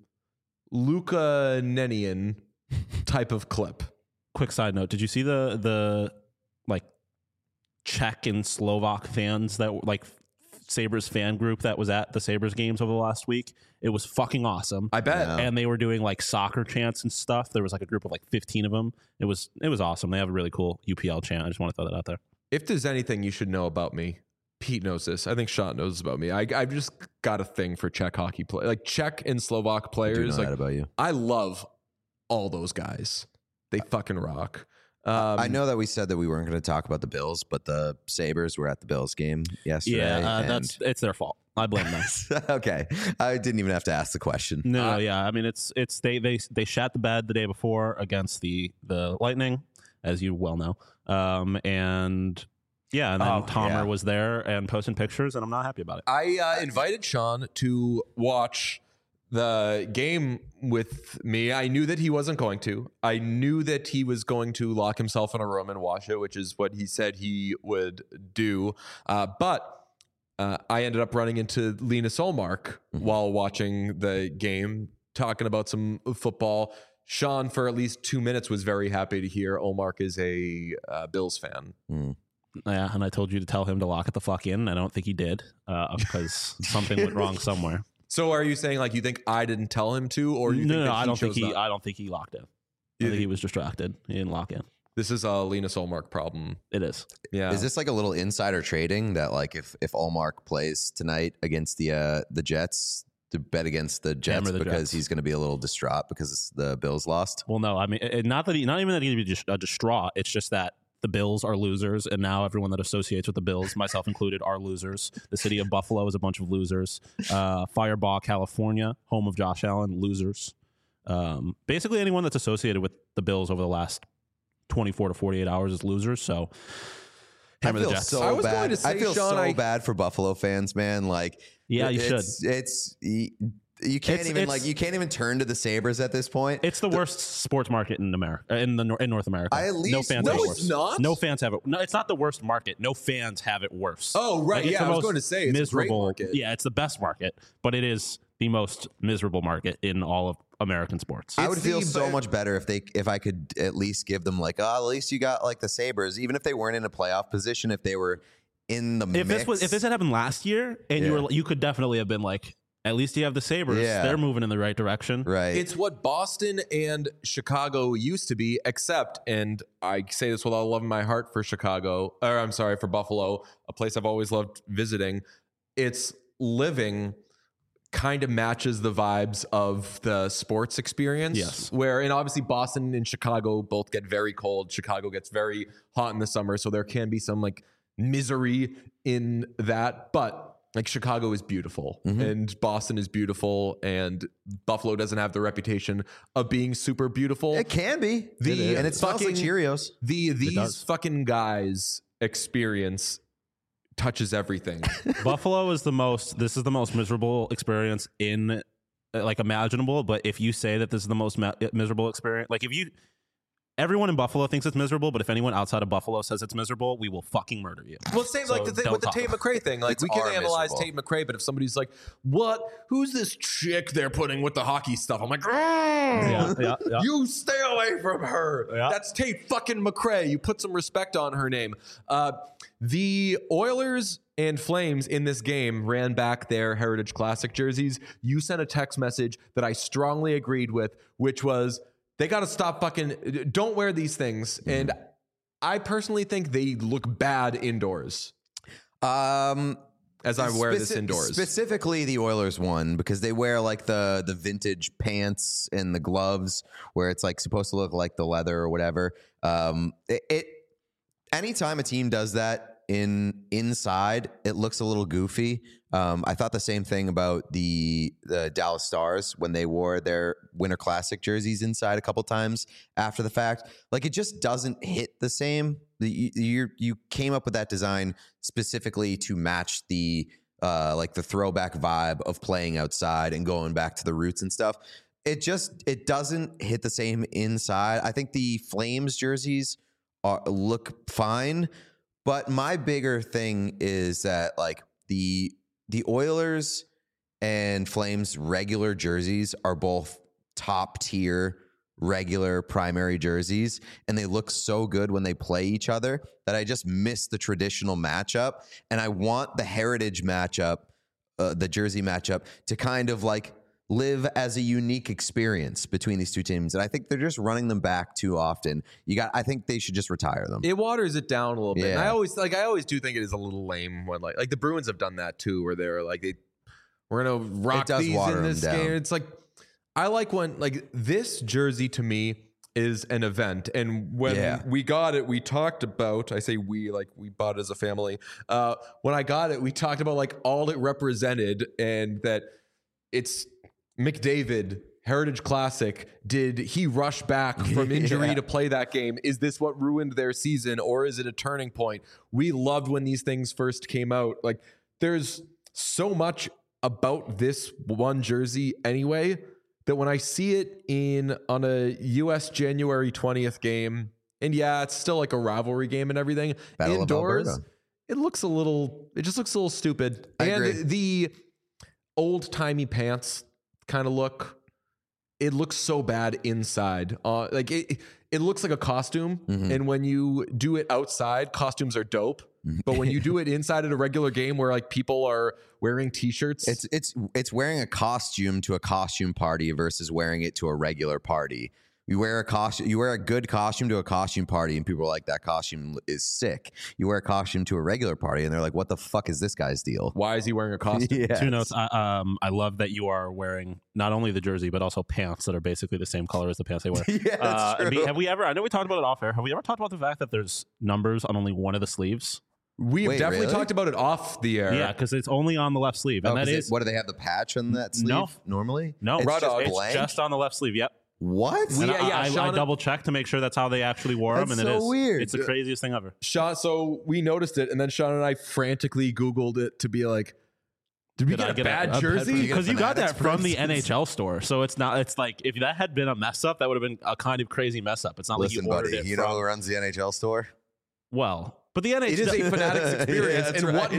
Luukkonenian type of clip. Quick side note: did you see the like Czech and Slovak fans that like Sabres fan group that was at the Sabres games over the last week? It was fucking awesome. I bet. Yeah. And they were doing like soccer chants and stuff. There was like a group of like 15 of them. It was awesome. They have a really cool UPL chant. I just want to throw that out there. If there's anything you should know about me, Pete knows this. I think Sean knows this about me. I've just got a thing for Czech hockey play, like Czech and Slovak players. I do know like that about you. I love all those guys. They fucking rock. I know that we said that we weren't going to talk about the Bills, but the Sabres were at the Bills game yesterday. Yeah, it's their fault. I blame them. Okay, I didn't even have to ask the question. No, yeah. I mean, it's they shat the bed the day before against the Lightning, as you well know, and yeah, and then Tomer was there and posting pictures, and I'm not happy about it. I invited Sean to watch the game with me. I knew that he wasn't going to. I knew that he was going to lock himself in a room and watch it, which is what he said he would do. But I ended up running into Linus Ullmark while watching the game, talking about some football. Sean, for at least 2 minutes, was very happy to hear Ullmark is a Bills fan. Yeah, and I told you to tell him to lock it the fuck in. I don't think he did because something went wrong somewhere. So are you saying like you think I didn't tell him to, or you think that I he don't think chose he. not? I don't think he locked in. I think he was distracted. He didn't lock in. This is a Linus Ullmark problem. It is. Yeah. Is this like a little insider trading that like if Ullmark plays tonight against the Jets, to bet against the Jets because he's going to be a little distraught because the Bills lost? Well, no, I mean not even that he'd be distraught. It's just that the Bills are losers, and now everyone that associates with the Bills, myself included, are losers. The city of Buffalo is a bunch of losers. Firebaugh, California, home of Josh Allen, losers. Basically, anyone that's associated with the Bills over the last 24 to 48 hours is losers. So, hammer the Jets. So I was bad. going to say, I feel Sean, so bad for Buffalo fans, man. Like, yeah, you should. You can't even turn to the Sabres at this point. It's the worst sports market in America, in North America. No fans have it worse. It's not. No fans have it. No, it's not the worst market. No fans have it worse. Oh, right. Like, yeah, I was going to say it's miserable. a great market. Yeah, it's the best market, but it is the most miserable market in all of American sports. I would feel so much better if I could at least give them like, at least you got like the Sabres, even if they weren't in a playoff position, if they were in the mix. If this had happened last year, and you could definitely have been like, at least you have the Sabres. Yeah. They're moving in the right direction. Right. It's what Boston and Chicago used to be, except, and I say this with all love in my heart for for Buffalo, a place I've always loved visiting. Its living kind of matches the vibes of the sports experience. Yes. And obviously Boston and Chicago both get very cold. Chicago gets very hot in the summer. So there can be some like misery in that. But like Chicago is beautiful and Boston is beautiful and Buffalo doesn't have the reputation of being super beautiful. It can be. It smells like Cheerios. These fucking guys experience touches everything. Buffalo is this is the most miserable experience in like imaginable. But if you say that this is the most miserable experience, like everyone in Buffalo thinks it's miserable, but if anyone outside of Buffalo says it's miserable, we will fucking murder you. Well, same like the thing with the Tate McRae thing. Like, we can analyze Tate McRae, but if somebody's like, "What? Who's this chick they're putting with the hockey stuff?" I'm like, Yeah. "You stay away from her. Yeah. That's Tate fucking McRae. You put some respect on her name." The Oilers and Flames in this game ran back their Heritage Classic jerseys. You sent a text message that I strongly agreed with, which was, they got to stop fucking, don't wear these things. And I personally think they look bad indoors. As I wear this indoors. Specifically the Oilers one, because they wear like the vintage pants and the gloves where it's like supposed to look like the leather or whatever. Anytime a team does that inside, it looks a little goofy. I thought the same thing about the Dallas Stars when they wore their Winter Classic jerseys inside a couple times after the fact. Like, it just doesn't hit the same. You came up with that design specifically to match the like the throwback vibe of playing outside and going back to the roots and stuff. It doesn't hit the same inside. I think the Flames jerseys look fine, but my bigger thing is that like the Oilers and Flames regular jerseys are both top tier regular primary jerseys, and they look so good when they play each other that I just miss the traditional matchup, and I want the Heritage matchup, the jersey matchup, to kind of like live as a unique experience between these two teams. And I think they're just running them back too often. I think they should just retire them. It waters it down a little bit. Yeah. And I always do think it is a little lame when like the Bruins have done that too, where they're like, we're going to rock these in this game. It's like, I like when like this jersey to me is an event. And when we got it, we talked about, I say we, like we bought it as a family. When I got it, we talked about like all it represented, and that it's McDavid, Heritage Classic. Did he rush back from injury to play that game? Is this what ruined their season, or is it a turning point? We loved when these things first came out. Like, there's so much about this one jersey anyway, that when I see it on a US January 20th game, and yeah, it's still like a rivalry game and everything, Battle indoors, it just looks a little stupid. I and agree. The old-timey pants kind of it looks so bad inside. Like it looks like a costume. And when you do it outside, costumes are dope. But when you do it inside at a regular game where like people are wearing t-shirts, it's wearing a costume to a costume party versus wearing it to a regular party. You wear a good costume to a costume party, and people are like, that costume is sick. You wear a costume to a regular party, and they're like, what the fuck is this guy's deal? why is he wearing a costume? Yes. 2 notes. I love that you are wearing not only the jersey, but also pants that are basically the same color as the pants they wear. Yeah, that's true. Have we ever, I know we talked about it off air, have we ever talked about the fact that there's numbers on only one of the sleeves? We have definitely really? talked about it off the air. Yeah, because it's only on the left sleeve. And that is, what do they have, the patch on that sleeve No. normally? no, It's it's, just just, blank? it's just on the left sleeve. Yep. What? And Yeah, Sean I and- double checked to make sure that's how they actually wore them, That's and so it is weird. It's the craziest thing ever. So we noticed it, and then Sean and I frantically Googled it to be like, did we get a bad jersey? Because you got that Fanatics from the prices? NHL store, so it's not. It's like if that had been a mess up, that would have been a kind of crazy mess up. It's not Listen, like you ordered buddy, it you from. know who runs the NHL store? Well, but the NHL It is a Fanatics experience, Yeah, that's and right.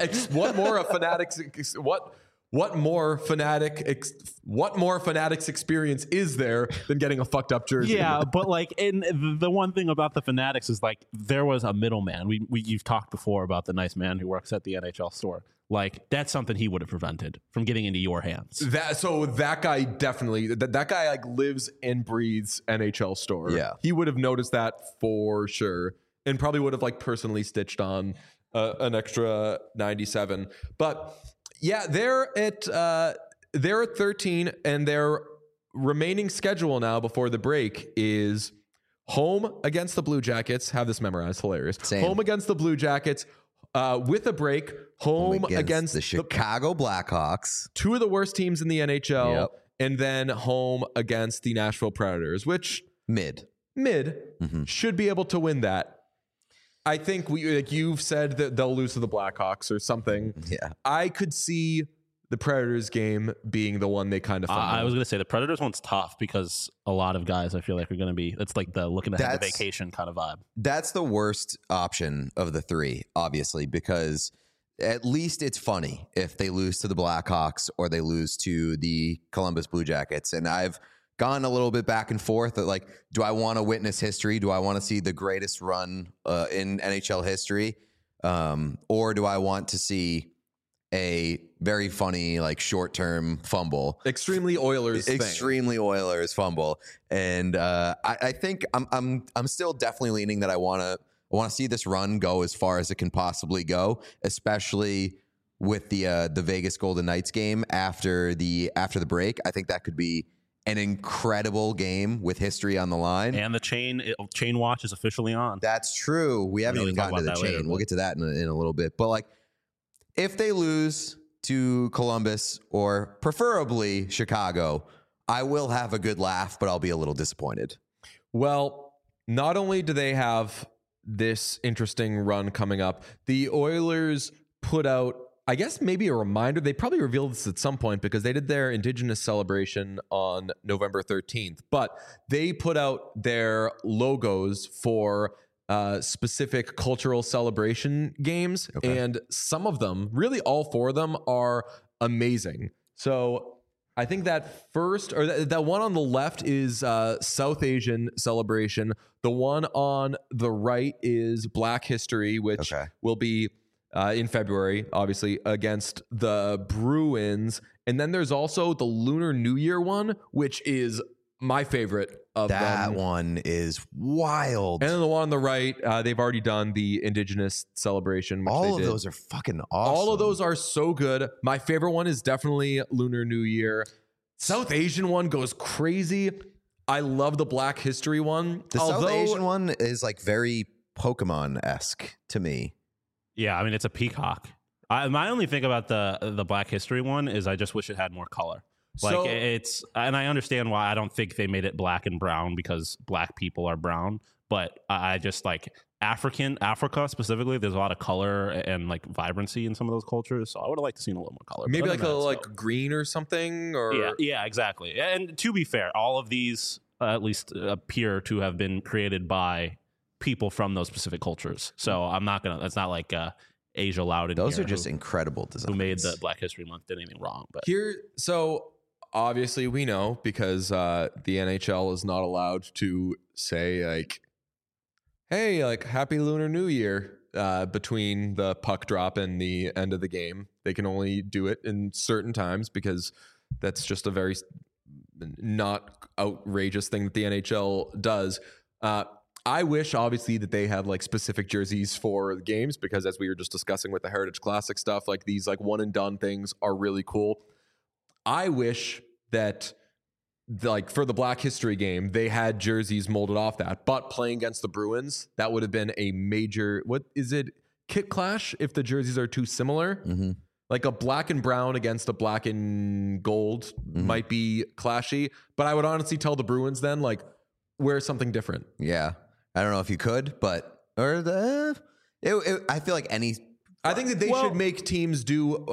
what more Fanatics experience is there than getting a fucked up jersey? Yeah, but like, and the one thing about the Fanatics is like there was a middleman. You've talked before about the nice man who works at the NHL store. Like, that's something he would have prevented from getting into your hands. That guy definitely that guy like lives and breathes NHL store. Yeah. He would have noticed that for sure, and probably would have like personally stitched on an extra 97. But yeah, they're at 13, and their remaining schedule now before the break is home against the Blue Jackets. Have this memorized, hilarious. Same. Home against the Blue Jackets, with a break. Home against the Chicago Blackhawks. 2 of the worst teams in the NHL, Yep. and then home against the Nashville Predators, which Mid. should be able to win that. I think you've said that they'll lose to the Blackhawks or something. Yeah. I could see the Predators game being the one they kind of I was going to say the Predators one's tough because a lot of guys I feel like are going to be, it's like the looking ahead to vacation kind of vibe. That's the worst option of the three, obviously, because at least it's funny if they lose to the Blackhawks or they lose to the Columbus Blue Jackets. And I've gone a little bit back and forth that, like, do I want to witness history? Do I want to see the greatest run in NHL history? Or do I want to see a very funny, like, short-term fumble? Extremely Oilers fumble. And I think I'm still definitely leaning that I want to see this run go as far as it can possibly go, especially with the Vegas Golden Knights game after the break. I think that could be an incredible game with history on the line. And the chain watch is officially on. That's true. We haven't even gotten to the chain. Later, we'll get to that in a little bit. But, like, if they lose to Columbus or preferably Chicago, I will have a good laugh, but I'll be a little disappointed. Well, not only do they have this interesting run coming up, the Oilers put out, I guess, maybe a reminder. They probably revealed this at some point because they did their Indigenous celebration on November 13th, but they put out their logos for specific cultural celebration games. Okay. And some of them, really all four of them, are amazing. So I think that first, or that one on the left is South Asian celebration. The one on the right is Black History, which will be in February, obviously, against the Bruins. And then there's also the Lunar New Year one, which is my favorite of them. That one is wild. And then the one on the right, they've already done the Indigenous celebration. All of those are fucking awesome. All of those are so good. My favorite one is definitely Lunar New Year. South Asian one goes crazy. I love the Black History one. The South Asian one is, like, very Pokemon-esque to me. Yeah, I mean, it's a peacock. My only thing about the Black History one is I just wish it had more color. Like, and I understand why I don't think they made it black and brown because black people are brown, but I just like Africa specifically. There's a lot of color and, like, vibrancy in some of those cultures. So I would have liked to see a little more color. Maybe like green or something. Or yeah, exactly. And to be fair, all of these at least appear to have been created by people from those specific cultures. So I'm not gonna. That's not like Asia Loud. Those are just incredible designs. Who made the Black History Month did anything wrong? But so obviously we know because the NHL is not allowed to say, like, hey, like, Happy Lunar New Year between the puck drop and the end of the game. They can only do it in certain times because that's just a very not outrageous thing that the NHL does. I wish, obviously, that they had, like, specific jerseys for the games because, as we were just discussing with the Heritage Classic stuff, like, these, like, one and done things are really cool. I wish that, like, for the Black History game, they had jerseys molded off that. But playing against the Bruins, that would have been a major, what is it, kit clash if the jerseys are too similar? Mm-hmm. Like a black and brown against a black and gold might be clashy. But I would honestly tell the Bruins then, like, wear something different. Yeah. I don't know if you could, but I feel like I think that they should make teams do.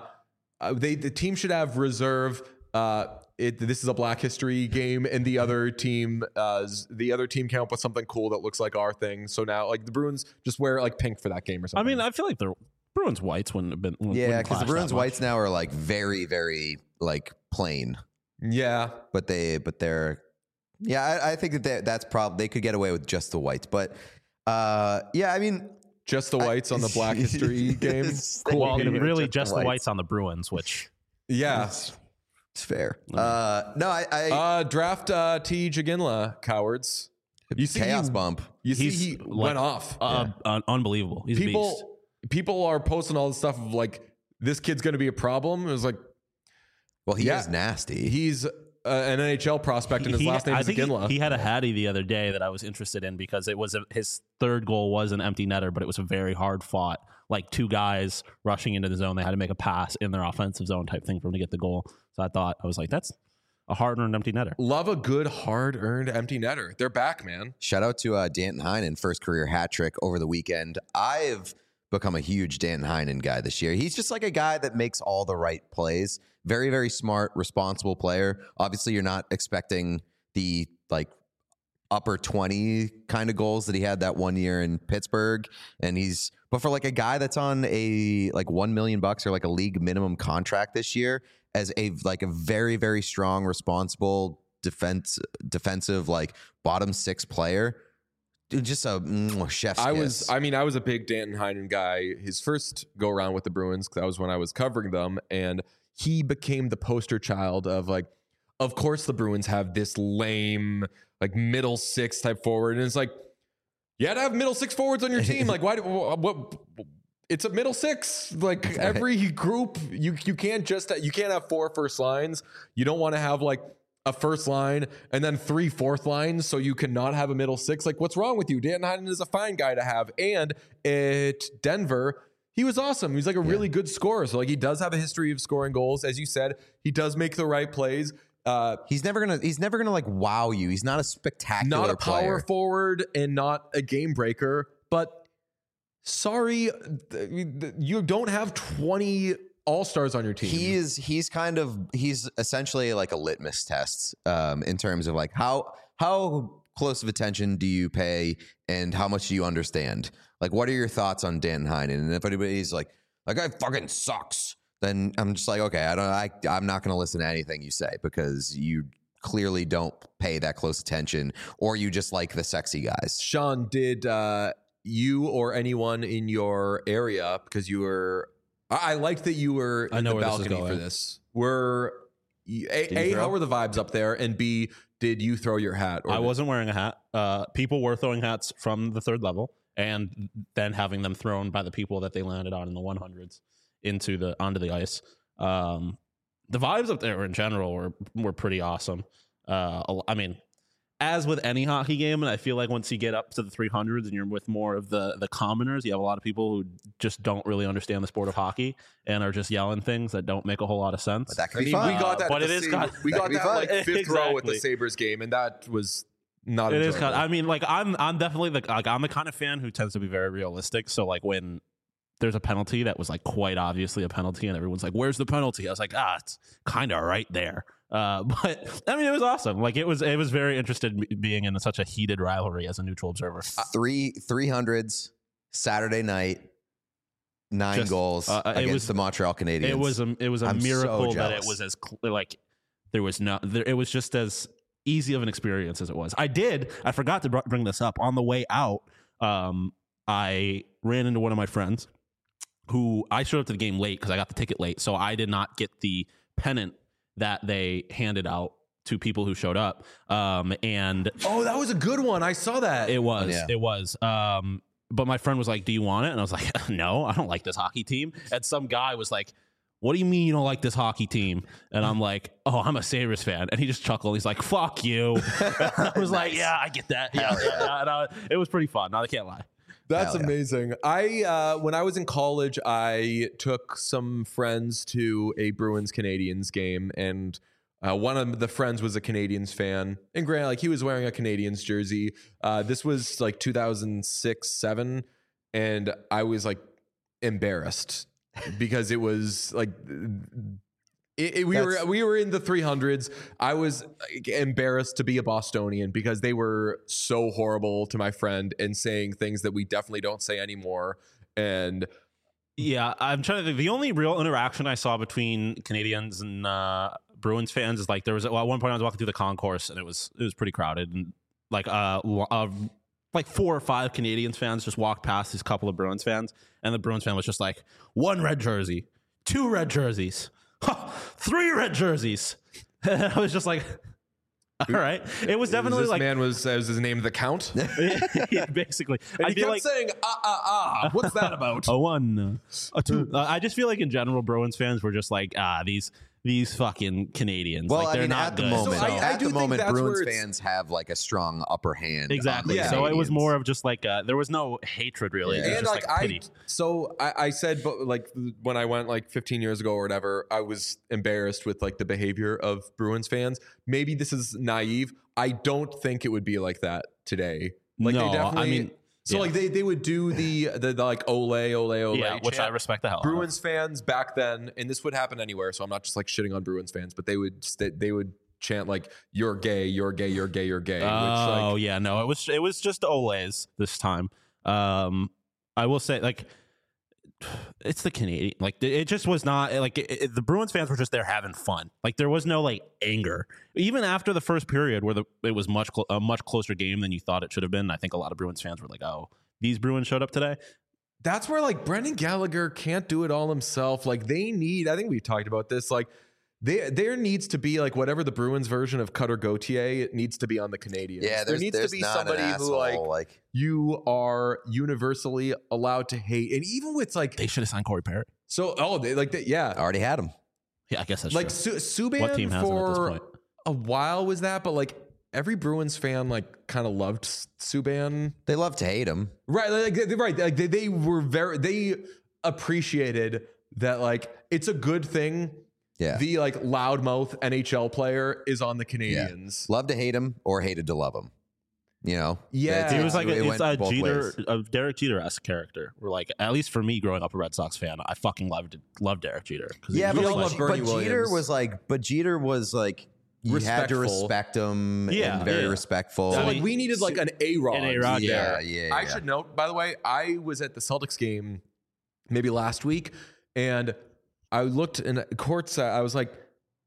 The team should have reserve. This is a Black History game, and the other team came up with something cool that looks like our thing. So now, like, the Bruins just wear, like, pink for that game or something. I mean, I feel like the Bruins whites wouldn't have been. Yeah, because the Bruins whites now are, like, very, very, like, plain. Yeah, but they're. Yeah, I think that's probably they could get away with just the whites, but yeah, I mean, just the whites on the Black History game. Cool. Well, really, just the whites on the Bruins, which it's fair. No, I draft T. Jaginla, cowards. You see chaos bump. You see he went off. Unbelievable. He's people are posting all this stuff of, like, this kid's going to be a problem. It was like, well, he is nasty. He's an NHL prospect, and his last name is Ginla. He had a Hattie the other day that I was interested in because it was his third goal was an empty netter, but it was a very hard fought, like, two guys rushing into the zone. They had to make a pass in their offensive zone type thing for him to get the goal. So I was like, that's a hard-earned empty netter. Love a good hard-earned empty netter. They're back, man. Shout out to Danton Heinen, first career hat trick over the weekend. I've become a huge Danton Heinen guy this year. He's just like a guy that makes all the right plays. Very, very smart, responsible player. Obviously, you're not expecting the like upper 20 kind of goals that he had that one year in Pittsburgh. But for like a guy that's on a like $1 million or like a league minimum contract this year as a very, very strong, responsible defensive, like bottom six player, dude, just a chef's kiss. I was a big Danton Heinen guy. His first go around with the Bruins, that was when I was covering them, and he became the poster child of like, of course the Bruins have this lame like middle six type forward, and it's like, you had to have middle six forwards on your team. Like, why? What? It's a middle six. Like every group, you can't have 4 first lines. You don't want to have like a first line and then 3 fourth lines, so you cannot have a middle six. Like, what's wrong with you? Danton Heinen is a fine guy to have, and at Denver, he was awesome. He's like a really good scorer. So like, he does have a history of scoring goals, as you said. He does make the right plays. He's never gonna like wow you. He's not a spectacular not a power player. forward and not a game breaker, but sorry, you don't have 20 all-stars on your team. He's essentially like a litmus test in terms of like how close of attention do you pay and how much do you understand? Like, what are your thoughts on Dan Heinen? And if anybody's like, that guy fucking sucks, then I'm just like, okay, I'm not going to listen to anything you say because you clearly don't pay that close attention, or you just like the sexy guys. Sean, did you or anyone in your area, because you were, I liked that you were in the balcony for this. How were the vibes up there? And B, did you throw your hat? I wasn't wearing a hat. People were throwing hats from the third level and then having them thrown by the people that they landed on in the 100s onto the ice. The vibes up there in general were pretty awesome. I mean, as with any hockey game, and I feel like once you get up to the 300s and you're with more of the commoners, you have a lot of people who just don't really understand the sport of hockey and are just yelling things that don't make a whole lot of sense. But that could be fun. We got that. But We got that like fifth row at the Exactly. Sabres game, and that was not. It enjoyable. is kind of, I mean, like I'm definitely I'm the kind of fan who tends to be very realistic. So like when there's a penalty that was like quite obviously a penalty, and everyone's like, "Where's the penalty?" I was like, it's kind of right there. But I mean, it was awesome. Like it was very interested being in such a heated rivalry as a neutral observer. 300s Saturday night, 9 goals against the Montreal Canadiens. It was a I'm miracle so that it jealous. was it was just as easy of an experience as it was. I forgot to bring this up on the way out. I ran into one of my friends who I showed up to the game late because I got the ticket late. So I did not get the pennant that they handed out to people who showed up. And Oh, that was a good one. I saw that. it was. Yeah. It was. But my friend was like, "Do you want it?" And I was like, "No, I don't like this hockey team." And some guy was like, "What do you mean you don't like this hockey team?" And I'm like, "Oh, I'm a Sabres fan." And he just chuckled. He's like, "Fuck you." I was like, "Yeah, I get that." Yeah. And it was pretty fun. No, I can't lie. That's Hell yeah. amazing. When I was in college, I took some friends to a Bruins Canadiens game, and one of the friends was a Canadiens fan. And granted, like he was wearing a Canadiens jersey. This was like 2006-07, and I was like embarrassed because it was like we were in the 300s. I was embarrassed to be a Bostonian because they were so horrible to my friend and saying things that we definitely don't say anymore. And Yeah, I'm trying to think. The only real interaction I saw between Canadians and Bruins fans is like there was at one point I was walking through the concourse and it was pretty crowded, and like 4 or 5 Canadians fans just walked past these couple of Bruins fans, and the Bruins fan was just like, 1 red jersey, 2 red jerseys, 3 red jerseys. And I was just like, all right. It was definitely this like man was his name the Count. yeah, basically. And I he feel kept like saying what's that about? a 1, a 2. I just feel like in general, Bruins fans were just like, these these fucking Canadians. Well, like, I they're mean, not at the good. moment, So I at do the think moment, that's Bruins where it's- fans have like a strong upper hand. Exactly. on the So it was Canadians. more of just like there was no hatred really. Yeah. It was And just like pity. I said, but like when I went like 15 years ago or whatever, I was embarrassed with like the behavior of Bruins fans. Maybe this is naive. I don't think it would be like that today. Like No, they definitely. I mean, so yeah. like they would do the like ole Yeah, which I chant. respect the hell out of. Bruins fans back then, and this would happen anywhere. So I'm not just like shitting on Bruins fans, but they would chant like "You're gay, you're gay, you're gay, you're gay." Oh yeah, no, it was just Ole's this time. I will say like it's the Canadian. Like it just was not like the Bruins fans were just there having fun. Like there was no like anger even after the first period where it was a much closer game than you thought it should have been. I think a lot of Bruins fans were like, "Oh, these Bruins showed up today." That's where like Brendan Gallagher can't do it all himself. Like they need, I think we talked about this, like there needs to be like whatever the Bruins version of Cutter Gauthier, it needs to be on the Canadians. Yeah, there needs to be not somebody an who asshole, like you are universally allowed to hate. And even with like, They should have signed Corey Parrott. they like that. Yeah. already had him. Yeah, I guess that's Like true. Subban What team has him at this for point? a while was that, but like every Bruins fan like kind of loved Subban. They love to hate him. Right, like they were they appreciated that like it's a good thing. Yeah, The like loudmouth NHL player is on the Canadians. love to hate him or hated to love him. You know, Yeah. He was like it it's went a both Jeter, ways. a Derek Jeter-esque character. We're like, at least for me, growing up a Red Sox fan, I fucking loved Derek Jeter. 'Cause he Yeah, was but all like- love Bernie Jeter Williams. Jeter was like you had to Respectful. respect him Yeah, and very yeah. respectful. So I like mean, we needed like an A-Rod. an A-Rod, yeah, I should note, by the way, I was at the Celtics game maybe last week, and I looked in courts. I was like,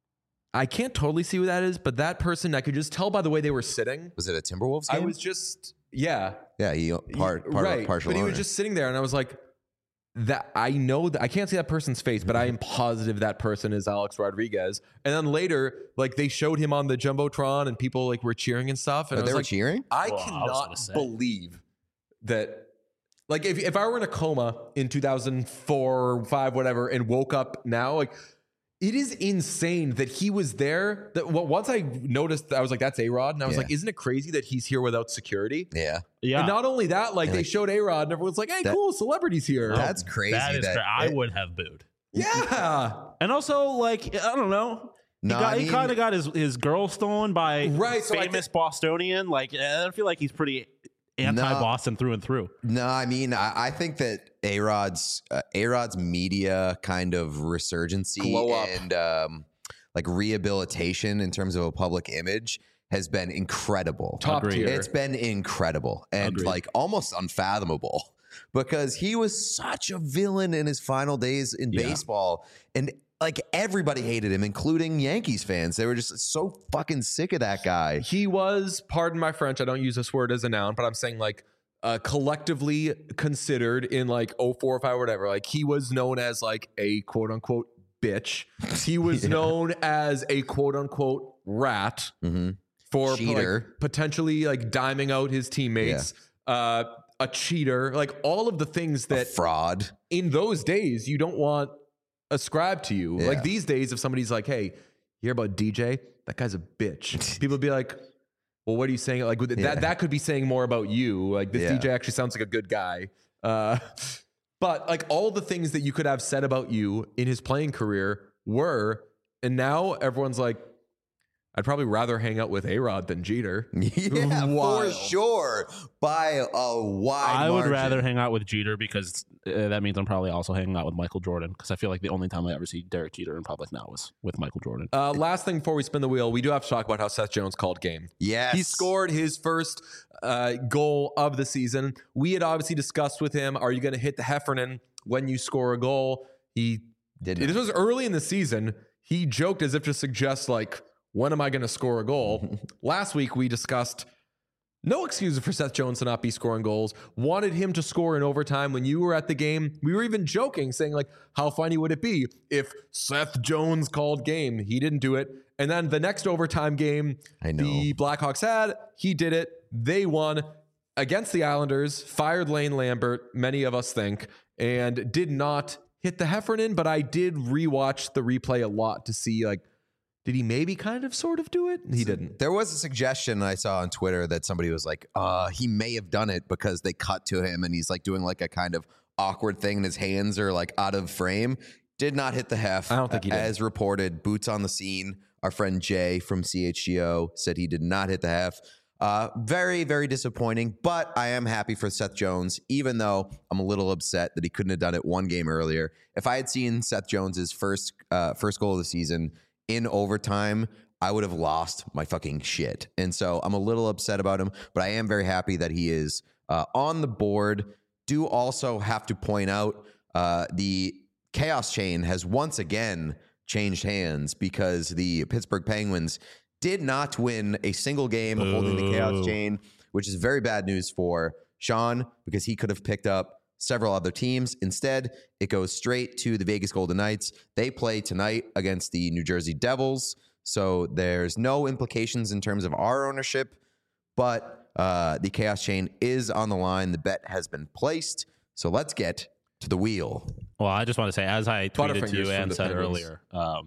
I can't totally see who that is, but that person, I could just tell by the way they were sitting. Was it a Timberwolves I game? was just, yeah. Yeah, he Right. partial But he was owner. just sitting there, and I was like, that I know that I can't see that person's face, but I am positive that person is Alex Rodriguez. And then later, like they showed him on the jumbotron, and people like were cheering and stuff. And Oh, I they was were like, cheering. I Well, I was cannot gonna say. believe that. Like if I were in a coma in 2004 or 5, whatever, and woke up now, like it is insane that he was there. That once I noticed, I was like, "That's A-Rod," and I was Yeah. like, "Isn't it crazy that he's here without security?" Yeah, yeah, And not only that, like And they like- showed A-Rod, and everyone's like, "Hey, That- cool, celebrities here." that's crazy. that is. that- I would have booed. Yeah, And also, like, I don't know. No, he I mean- kind of got his girl stolen by Right, so I famous Bostonian. Like, I feel like he's pretty anti-Boston through and through. No, I mean, I think that A-Rod's media kind of resurgency Glow up. and like rehabilitation in terms of a public image has been incredible. top Agreed. tier. It's been incredible and Agreed. like almost unfathomable because he was such a villain in his final days in Yeah. baseball. And like everybody hated him, including Yankees fans. They were just so fucking sick of that guy. He was, pardon my French, I don't use this word as a noun, but I'm saying like collectively considered in like 04 or 5 or whatever. Like he was known as like a quote unquote bitch. He was known as a quote unquote rat Mhm. for Cheater. like, potentially like diming out his teammates. A cheater, like all of the things A that fraud. in those days you don't want ascribed to you. Yeah. Like these days, if somebody's like, "Hey, you hear about DJ? That guy's a bitch," people would be like, "Well, what are you saying?" Like that could be saying more about you. Like this Yeah. DJ actually sounds like a good guy. But like all the things that you could have said about you in his playing career were, and now everyone's like, I'd probably rather hang out with A-Rod than Jeter. Yeah, for Wild. sure. By a wide I would margin. rather hang out with Jeter because that means I'm probably also hanging out with Michael Jordan because I feel like the only time I ever see Derek Jeter in public now is with Michael Jordan. Last thing before we spin the wheel, we do have to talk about how Seth Jones called game. Yes. He scored his first goal of the season. We had obviously discussed with him, are you going to hit the Heffernan when you score a goal? He Did This was early in the season. He joked as if to suggest, like, when am I going to score a goal? Last week, we discussed no excuse for Seth Jones to not be scoring goals. Wanted him to score in overtime when you were at the game. We were even joking, saying, like, how funny would it be if Seth Jones called game? He didn't do it. And then the next overtime game, I know. the Blackhawks had, he did it. They won against the Islanders, fired Lane Lambert, many of us think, and did not hit the Heffernan, but I did rewatch the replay a lot to see, like, did he maybe kind of sort of do it? He didn't. There was a suggestion I saw on Twitter that somebody was like, he may have done it because they cut to him and he's like doing like a kind of awkward thing and his hands are like out of frame. Did not hit the hef. I don't think he did. As reported, boots on the scene. Our friend Jay from CHGO said he did not hit the hef. Very, very disappointing, but I am happy for Seth Jones, even though I'm a little upset that he couldn't have done it one game earlier. If I had seen Seth Jones's first goal of the season in overtime, I would have lost my fucking shit. And so I'm a little upset about him, but I am very happy that he is on the board. Do also have to point out the Chaos Chain has once again changed hands because the Pittsburgh Penguins did not win a single game holding the Chaos Chain, which is very bad news for Sean because he could have picked up several other teams. Instead, it goes straight to the Vegas Golden Knights. They play tonight against the New Jersey Devils, so there's no implications in terms of our ownership, but the Chaos Chain is on the line. The bet has been placed, so let's get to the wheel. Well, I just want to say, as I tweeted to you Butterfingers and from said the earlier,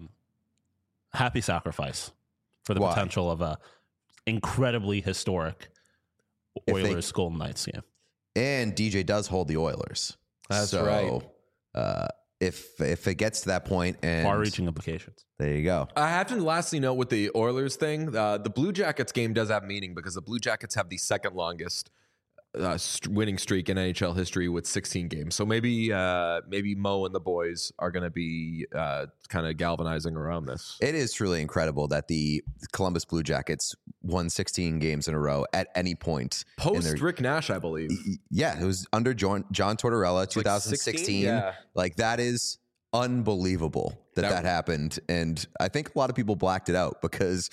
happy sacrifice for the Why? potential of a incredibly historic If they- Oilers Golden Knights game. And DJ does hold the Oilers. That's so, right. If it gets to that point, and Far-reaching implications. there you go. I have to lastly note with the Oilers thing, the Blue Jackets game does have meaning because the Blue Jackets have the second longest winning streak in NHL history with 16 games. So maybe Mo and the boys are going to be kind of galvanizing around this. It is truly incredible that the Columbus Blue Jackets won 16 games in a row at any point. in Post their- Rick Nash, I believe. Yeah, it was under John Tortorella, 2016. yeah. Like, that is unbelievable that happened. And I think a lot of people blacked it out because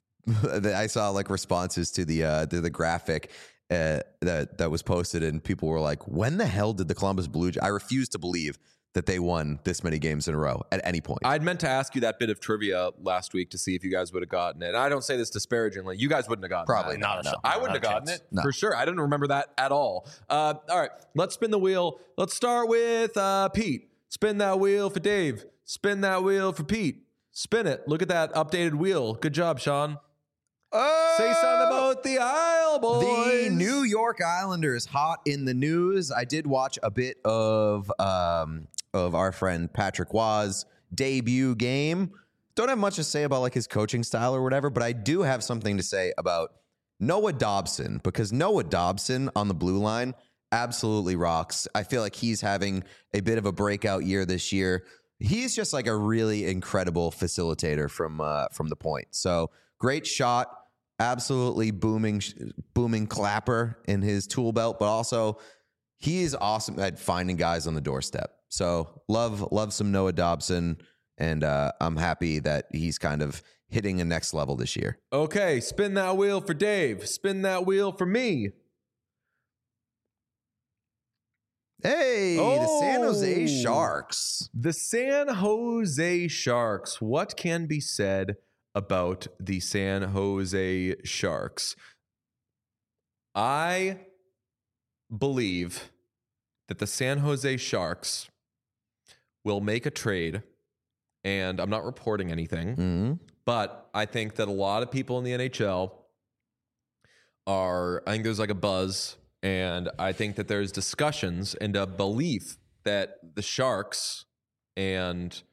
I saw like responses to the graphic that was posted, and people were like, when the hell did the Columbus Blue Jackets? I refuse to believe that they won this many games in a row at any point. I'd meant to ask you that bit of trivia last week to see if you guys would have gotten it. And I don't say this disparagingly. You guys wouldn't have gotten Probably that. not. Not a shot. I wouldn't have Not a gotten chance. it No. for sure. I didn't remember that at all. All right, let's spin the wheel. Let's start with Pete. Spin that wheel for Dave. Spin that wheel for Pete. Spin it. Look at that updated wheel. Good job, Sean. Say something about the Isle Boys. The New York Islanders hot in the news. I did watch a bit of our friend Patrick Waugh's debut game. Don't have much to say about like his coaching style or whatever, but I do have something to say about Noah Dobson, because Noah Dobson on the blue line absolutely rocks. I feel like he's having a bit of a breakout year this year. He's just like a really incredible facilitator from the point. So great shot. Absolutely booming clapper in his tool belt, but also he is awesome at finding guys on the doorstep. So love some Noah Dobson, and I'm happy that he's kind of hitting a next level this year. Okay, spin that wheel for Dave. Spin that wheel for me. Hey, the San Jose Sharks. The San Jose Sharks. What can be said about the San Jose Sharks? I believe that the San Jose Sharks will make a trade, and I'm not reporting anything, Mm-hmm. but I think that a lot of people in the NHL I think there's like a buzz, and I think that there's discussions and a belief that the Sharks and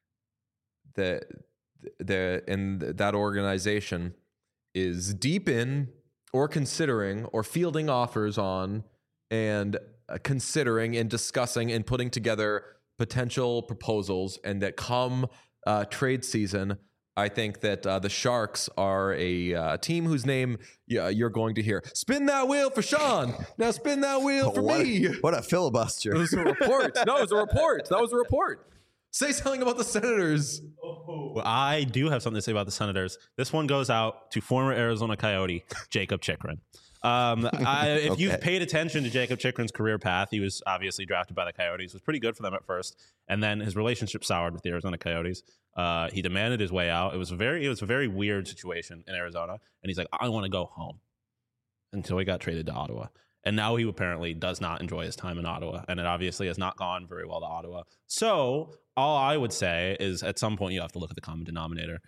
that organization is deep in or considering or fielding offers on and considering and discussing and putting together potential proposals, and that come trade season, I think that the Sharks are a team whose name you're going to hear. Spin that wheel for Sean. Now spin that wheel for me. What a filibuster. It was a report. No, it was a report. That was a report. Say something about the Senators. Well, I do have something to say about the Senators. This one goes out to former Arizona Coyote, Jacob Chikrin. If you've paid attention to Jacob Chikrin's career path, he was obviously drafted by the Coyotes, was pretty good for them at first, and then his relationship soured with the Arizona Coyotes. He demanded his way out. It was a very weird situation in Arizona, and he's like, I want to go home, until he got traded to Ottawa. And now he apparently does not enjoy his time in Ottawa, and it obviously has not gone very well to Ottawa. So all I would say is at some point you have to look at the common denominator.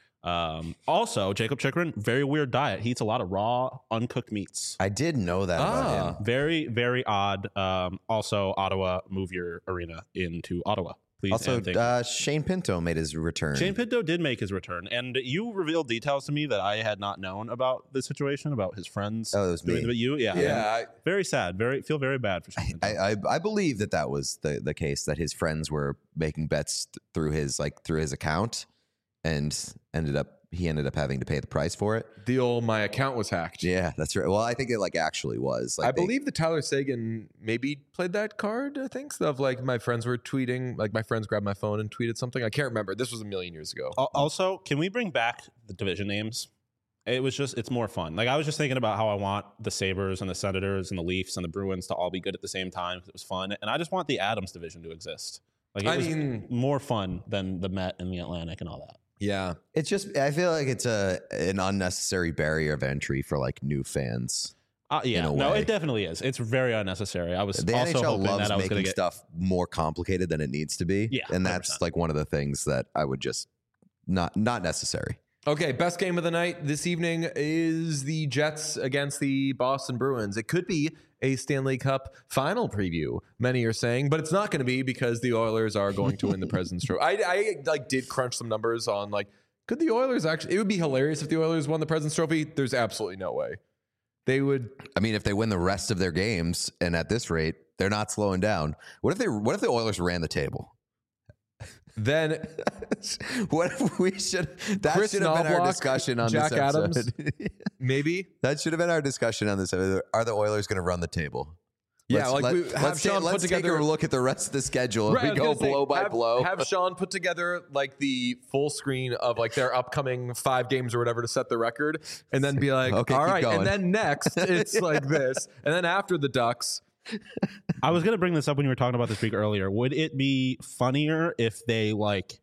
Also, Jacob Chychrun, very weird diet. He eats a lot of raw, uncooked meats. I did know that about him. Very, very odd. Also, Ottawa, move your arena into Ottawa, please. Also, Shane Pinto made his return. Shane Pinto did make his return, and you revealed details to me that I had not known about the situation, about his friends. Oh, it was me. But you, Yeah. very sad. Feel very bad for Shane Pinto. I believe that was the case, that his friends were making bets through his account, and ended up having to pay the price for it. The old my account was hacked. Yeah, that's right. Well, I think it actually was. I believe that Tyler Sagan maybe played that card. I think of my friends were tweeting, my friends grabbed my phone and tweeted something. I can't remember. This was a million years ago. Also, can we bring back the division names? It's more fun. I was just thinking about how I want the Sabres and the Senators and the Leafs and the Bruins to all be good at the same time because it was fun. And I just want the Adams division to exist. It was more fun than the Met and the Atlantic and all that. Yeah. It's just, I feel like it's an unnecessary barrier of entry for new fans. No, it definitely is. It's very unnecessary. I was the also NHL hoping loves that I was going making to get stuff more complicated than it needs to be. Yeah, and that's 100%. one of the things that I would just not necessary. Okay, best game of the night this evening is the Jets against the Boston Bruins. It could be a Stanley Cup final preview, many are saying, but it's not going to be because the Oilers are going to win the President's Trophy. I did crunch some numbers on could the Oilers actually? It would be hilarious if the Oilers won the President's Trophy. There's absolutely no way they would. I mean, if they win the rest of their games, and at this rate, they're not slowing down. What if the Oilers ran the table? Then what if we should? That Chris should have been our Knoblauch, discussion on Jack this episode. Adams, maybe That should have been our discussion on this episode. Are the Oilers going to run the table? Yeah, let's take a look at the rest of the schedule. Right, We go blow by blow. Have Sean put together the full screen of their upcoming 5 games or whatever to set the record, and then be like, Okay, all keep right, going. and then next it's like this, and then after the Ducks. I was going to bring this up when you were talking about this week earlier. Would it be funnier if they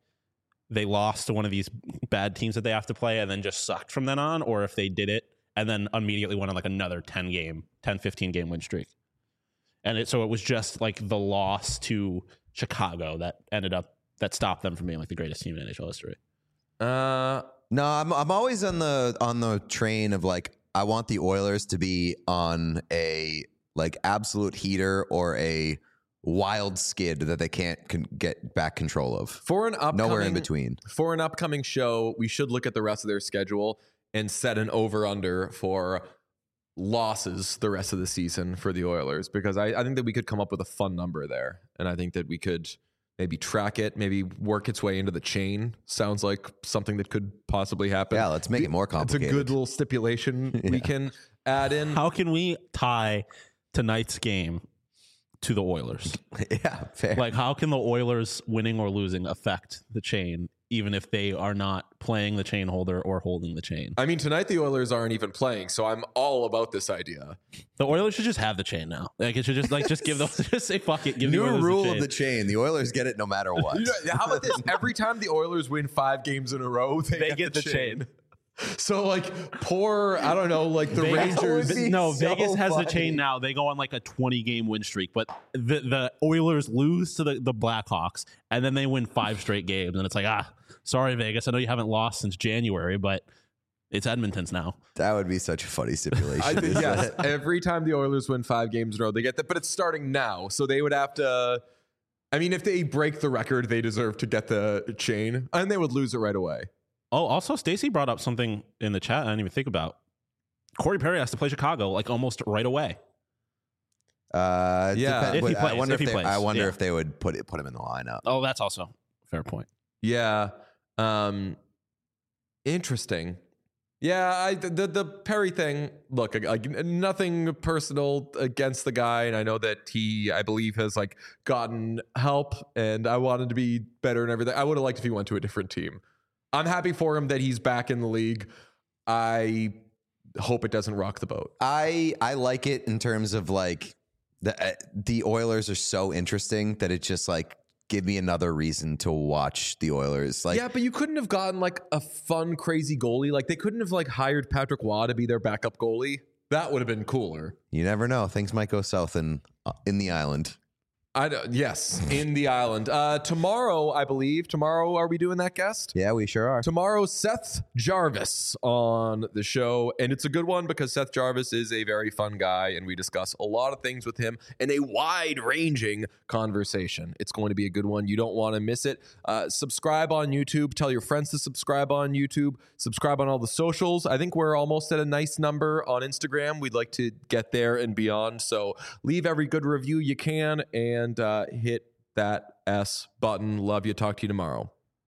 lost to one of these bad teams that they have to play and then just sucked from then on, or if they did it and then immediately went on another 10, 15 game win streak? And so it was just the loss to Chicago that stopped them from being the greatest team in NHL history. No, I'm always on the train of I want the Oilers to be on a absolute heater or a wild skid that they can't get back control of. For an upcoming, nowhere in between. For an upcoming show, we should look at the rest of their schedule and set an over-under for losses the rest of the season for the Oilers, because I think that we could come up with a fun number there, and I think that we could maybe track it, maybe work its way into the chain. Sounds like something that could possibly happen. Yeah, let's make it more complicated. It's a good little stipulation we can add in. How can we tie tonight's game to the Oilers? Yeah, fair. How can the Oilers winning or losing affect the chain, even if they are not playing the chain holder or holding the chain? I mean, tonight the Oilers aren't even playing, so I'm all about this idea. The Oilers should just have the chain now. It should just give them, just say fuck it. Give New the Oilers rule the chain. of the chain. The Oilers get it no matter what. How about this? Every time the Oilers win 5 games in a row, they get the chain. So poor, I don't know, the Rangers. No, so Vegas has the funny. chain now. They go on a 20-game win streak, but the Oilers lose to the Blackhawks, and then they win 5 straight games, and it's sorry Vegas, I know you haven't lost since January, but it's Edmonton's now. That would be such a funny stipulation. I think, yes, every time the Oilers win 5 games in a row, they get that, but it's starting now, so they would have to. I mean, if they break the record, they deserve to get the chain, and they would lose it right away. Oh, also, Stacy brought up something in the chat I didn't even think about. Corey Perry has to play Chicago almost right away. Yeah, if he plays. I wonder if he plays. I wonder Yeah. if they would put him in the lineup. Oh, that's also a fair point. Yeah, interesting. Yeah, the Perry thing. Look, nothing personal against the guy, and I know that he, I believe, has gotten help, and I wanted to be better and everything. I would have liked if he went to a different team. I'm happy for him that he's back in the league. I hope it doesn't rock the boat. I like it in terms of the Oilers are so interesting that it just give me another reason to watch the Oilers. Yeah, but you couldn't have gotten a fun, crazy goalie. They couldn't have hired Patrick Waugh to be their backup goalie. That would have been cooler. You never know. Things might go south in the island. Yes, in the island. Tomorrow, I believe. Tomorrow, are we doing that guest? Yeah, we sure are. Tomorrow, Seth Jarvis on the show. And it's a good one because Seth Jarvis is a very fun guy, and we discuss a lot of things with him in a wide-ranging conversation. It's going to be a good one. You don't want to miss it. Subscribe on YouTube. Tell your friends to subscribe on YouTube. Subscribe on all the socials. I think we're almost at a nice number on Instagram. We'd like to get there and beyond. So leave every good review you can and hit that S button. Love you. Talk to you tomorrow.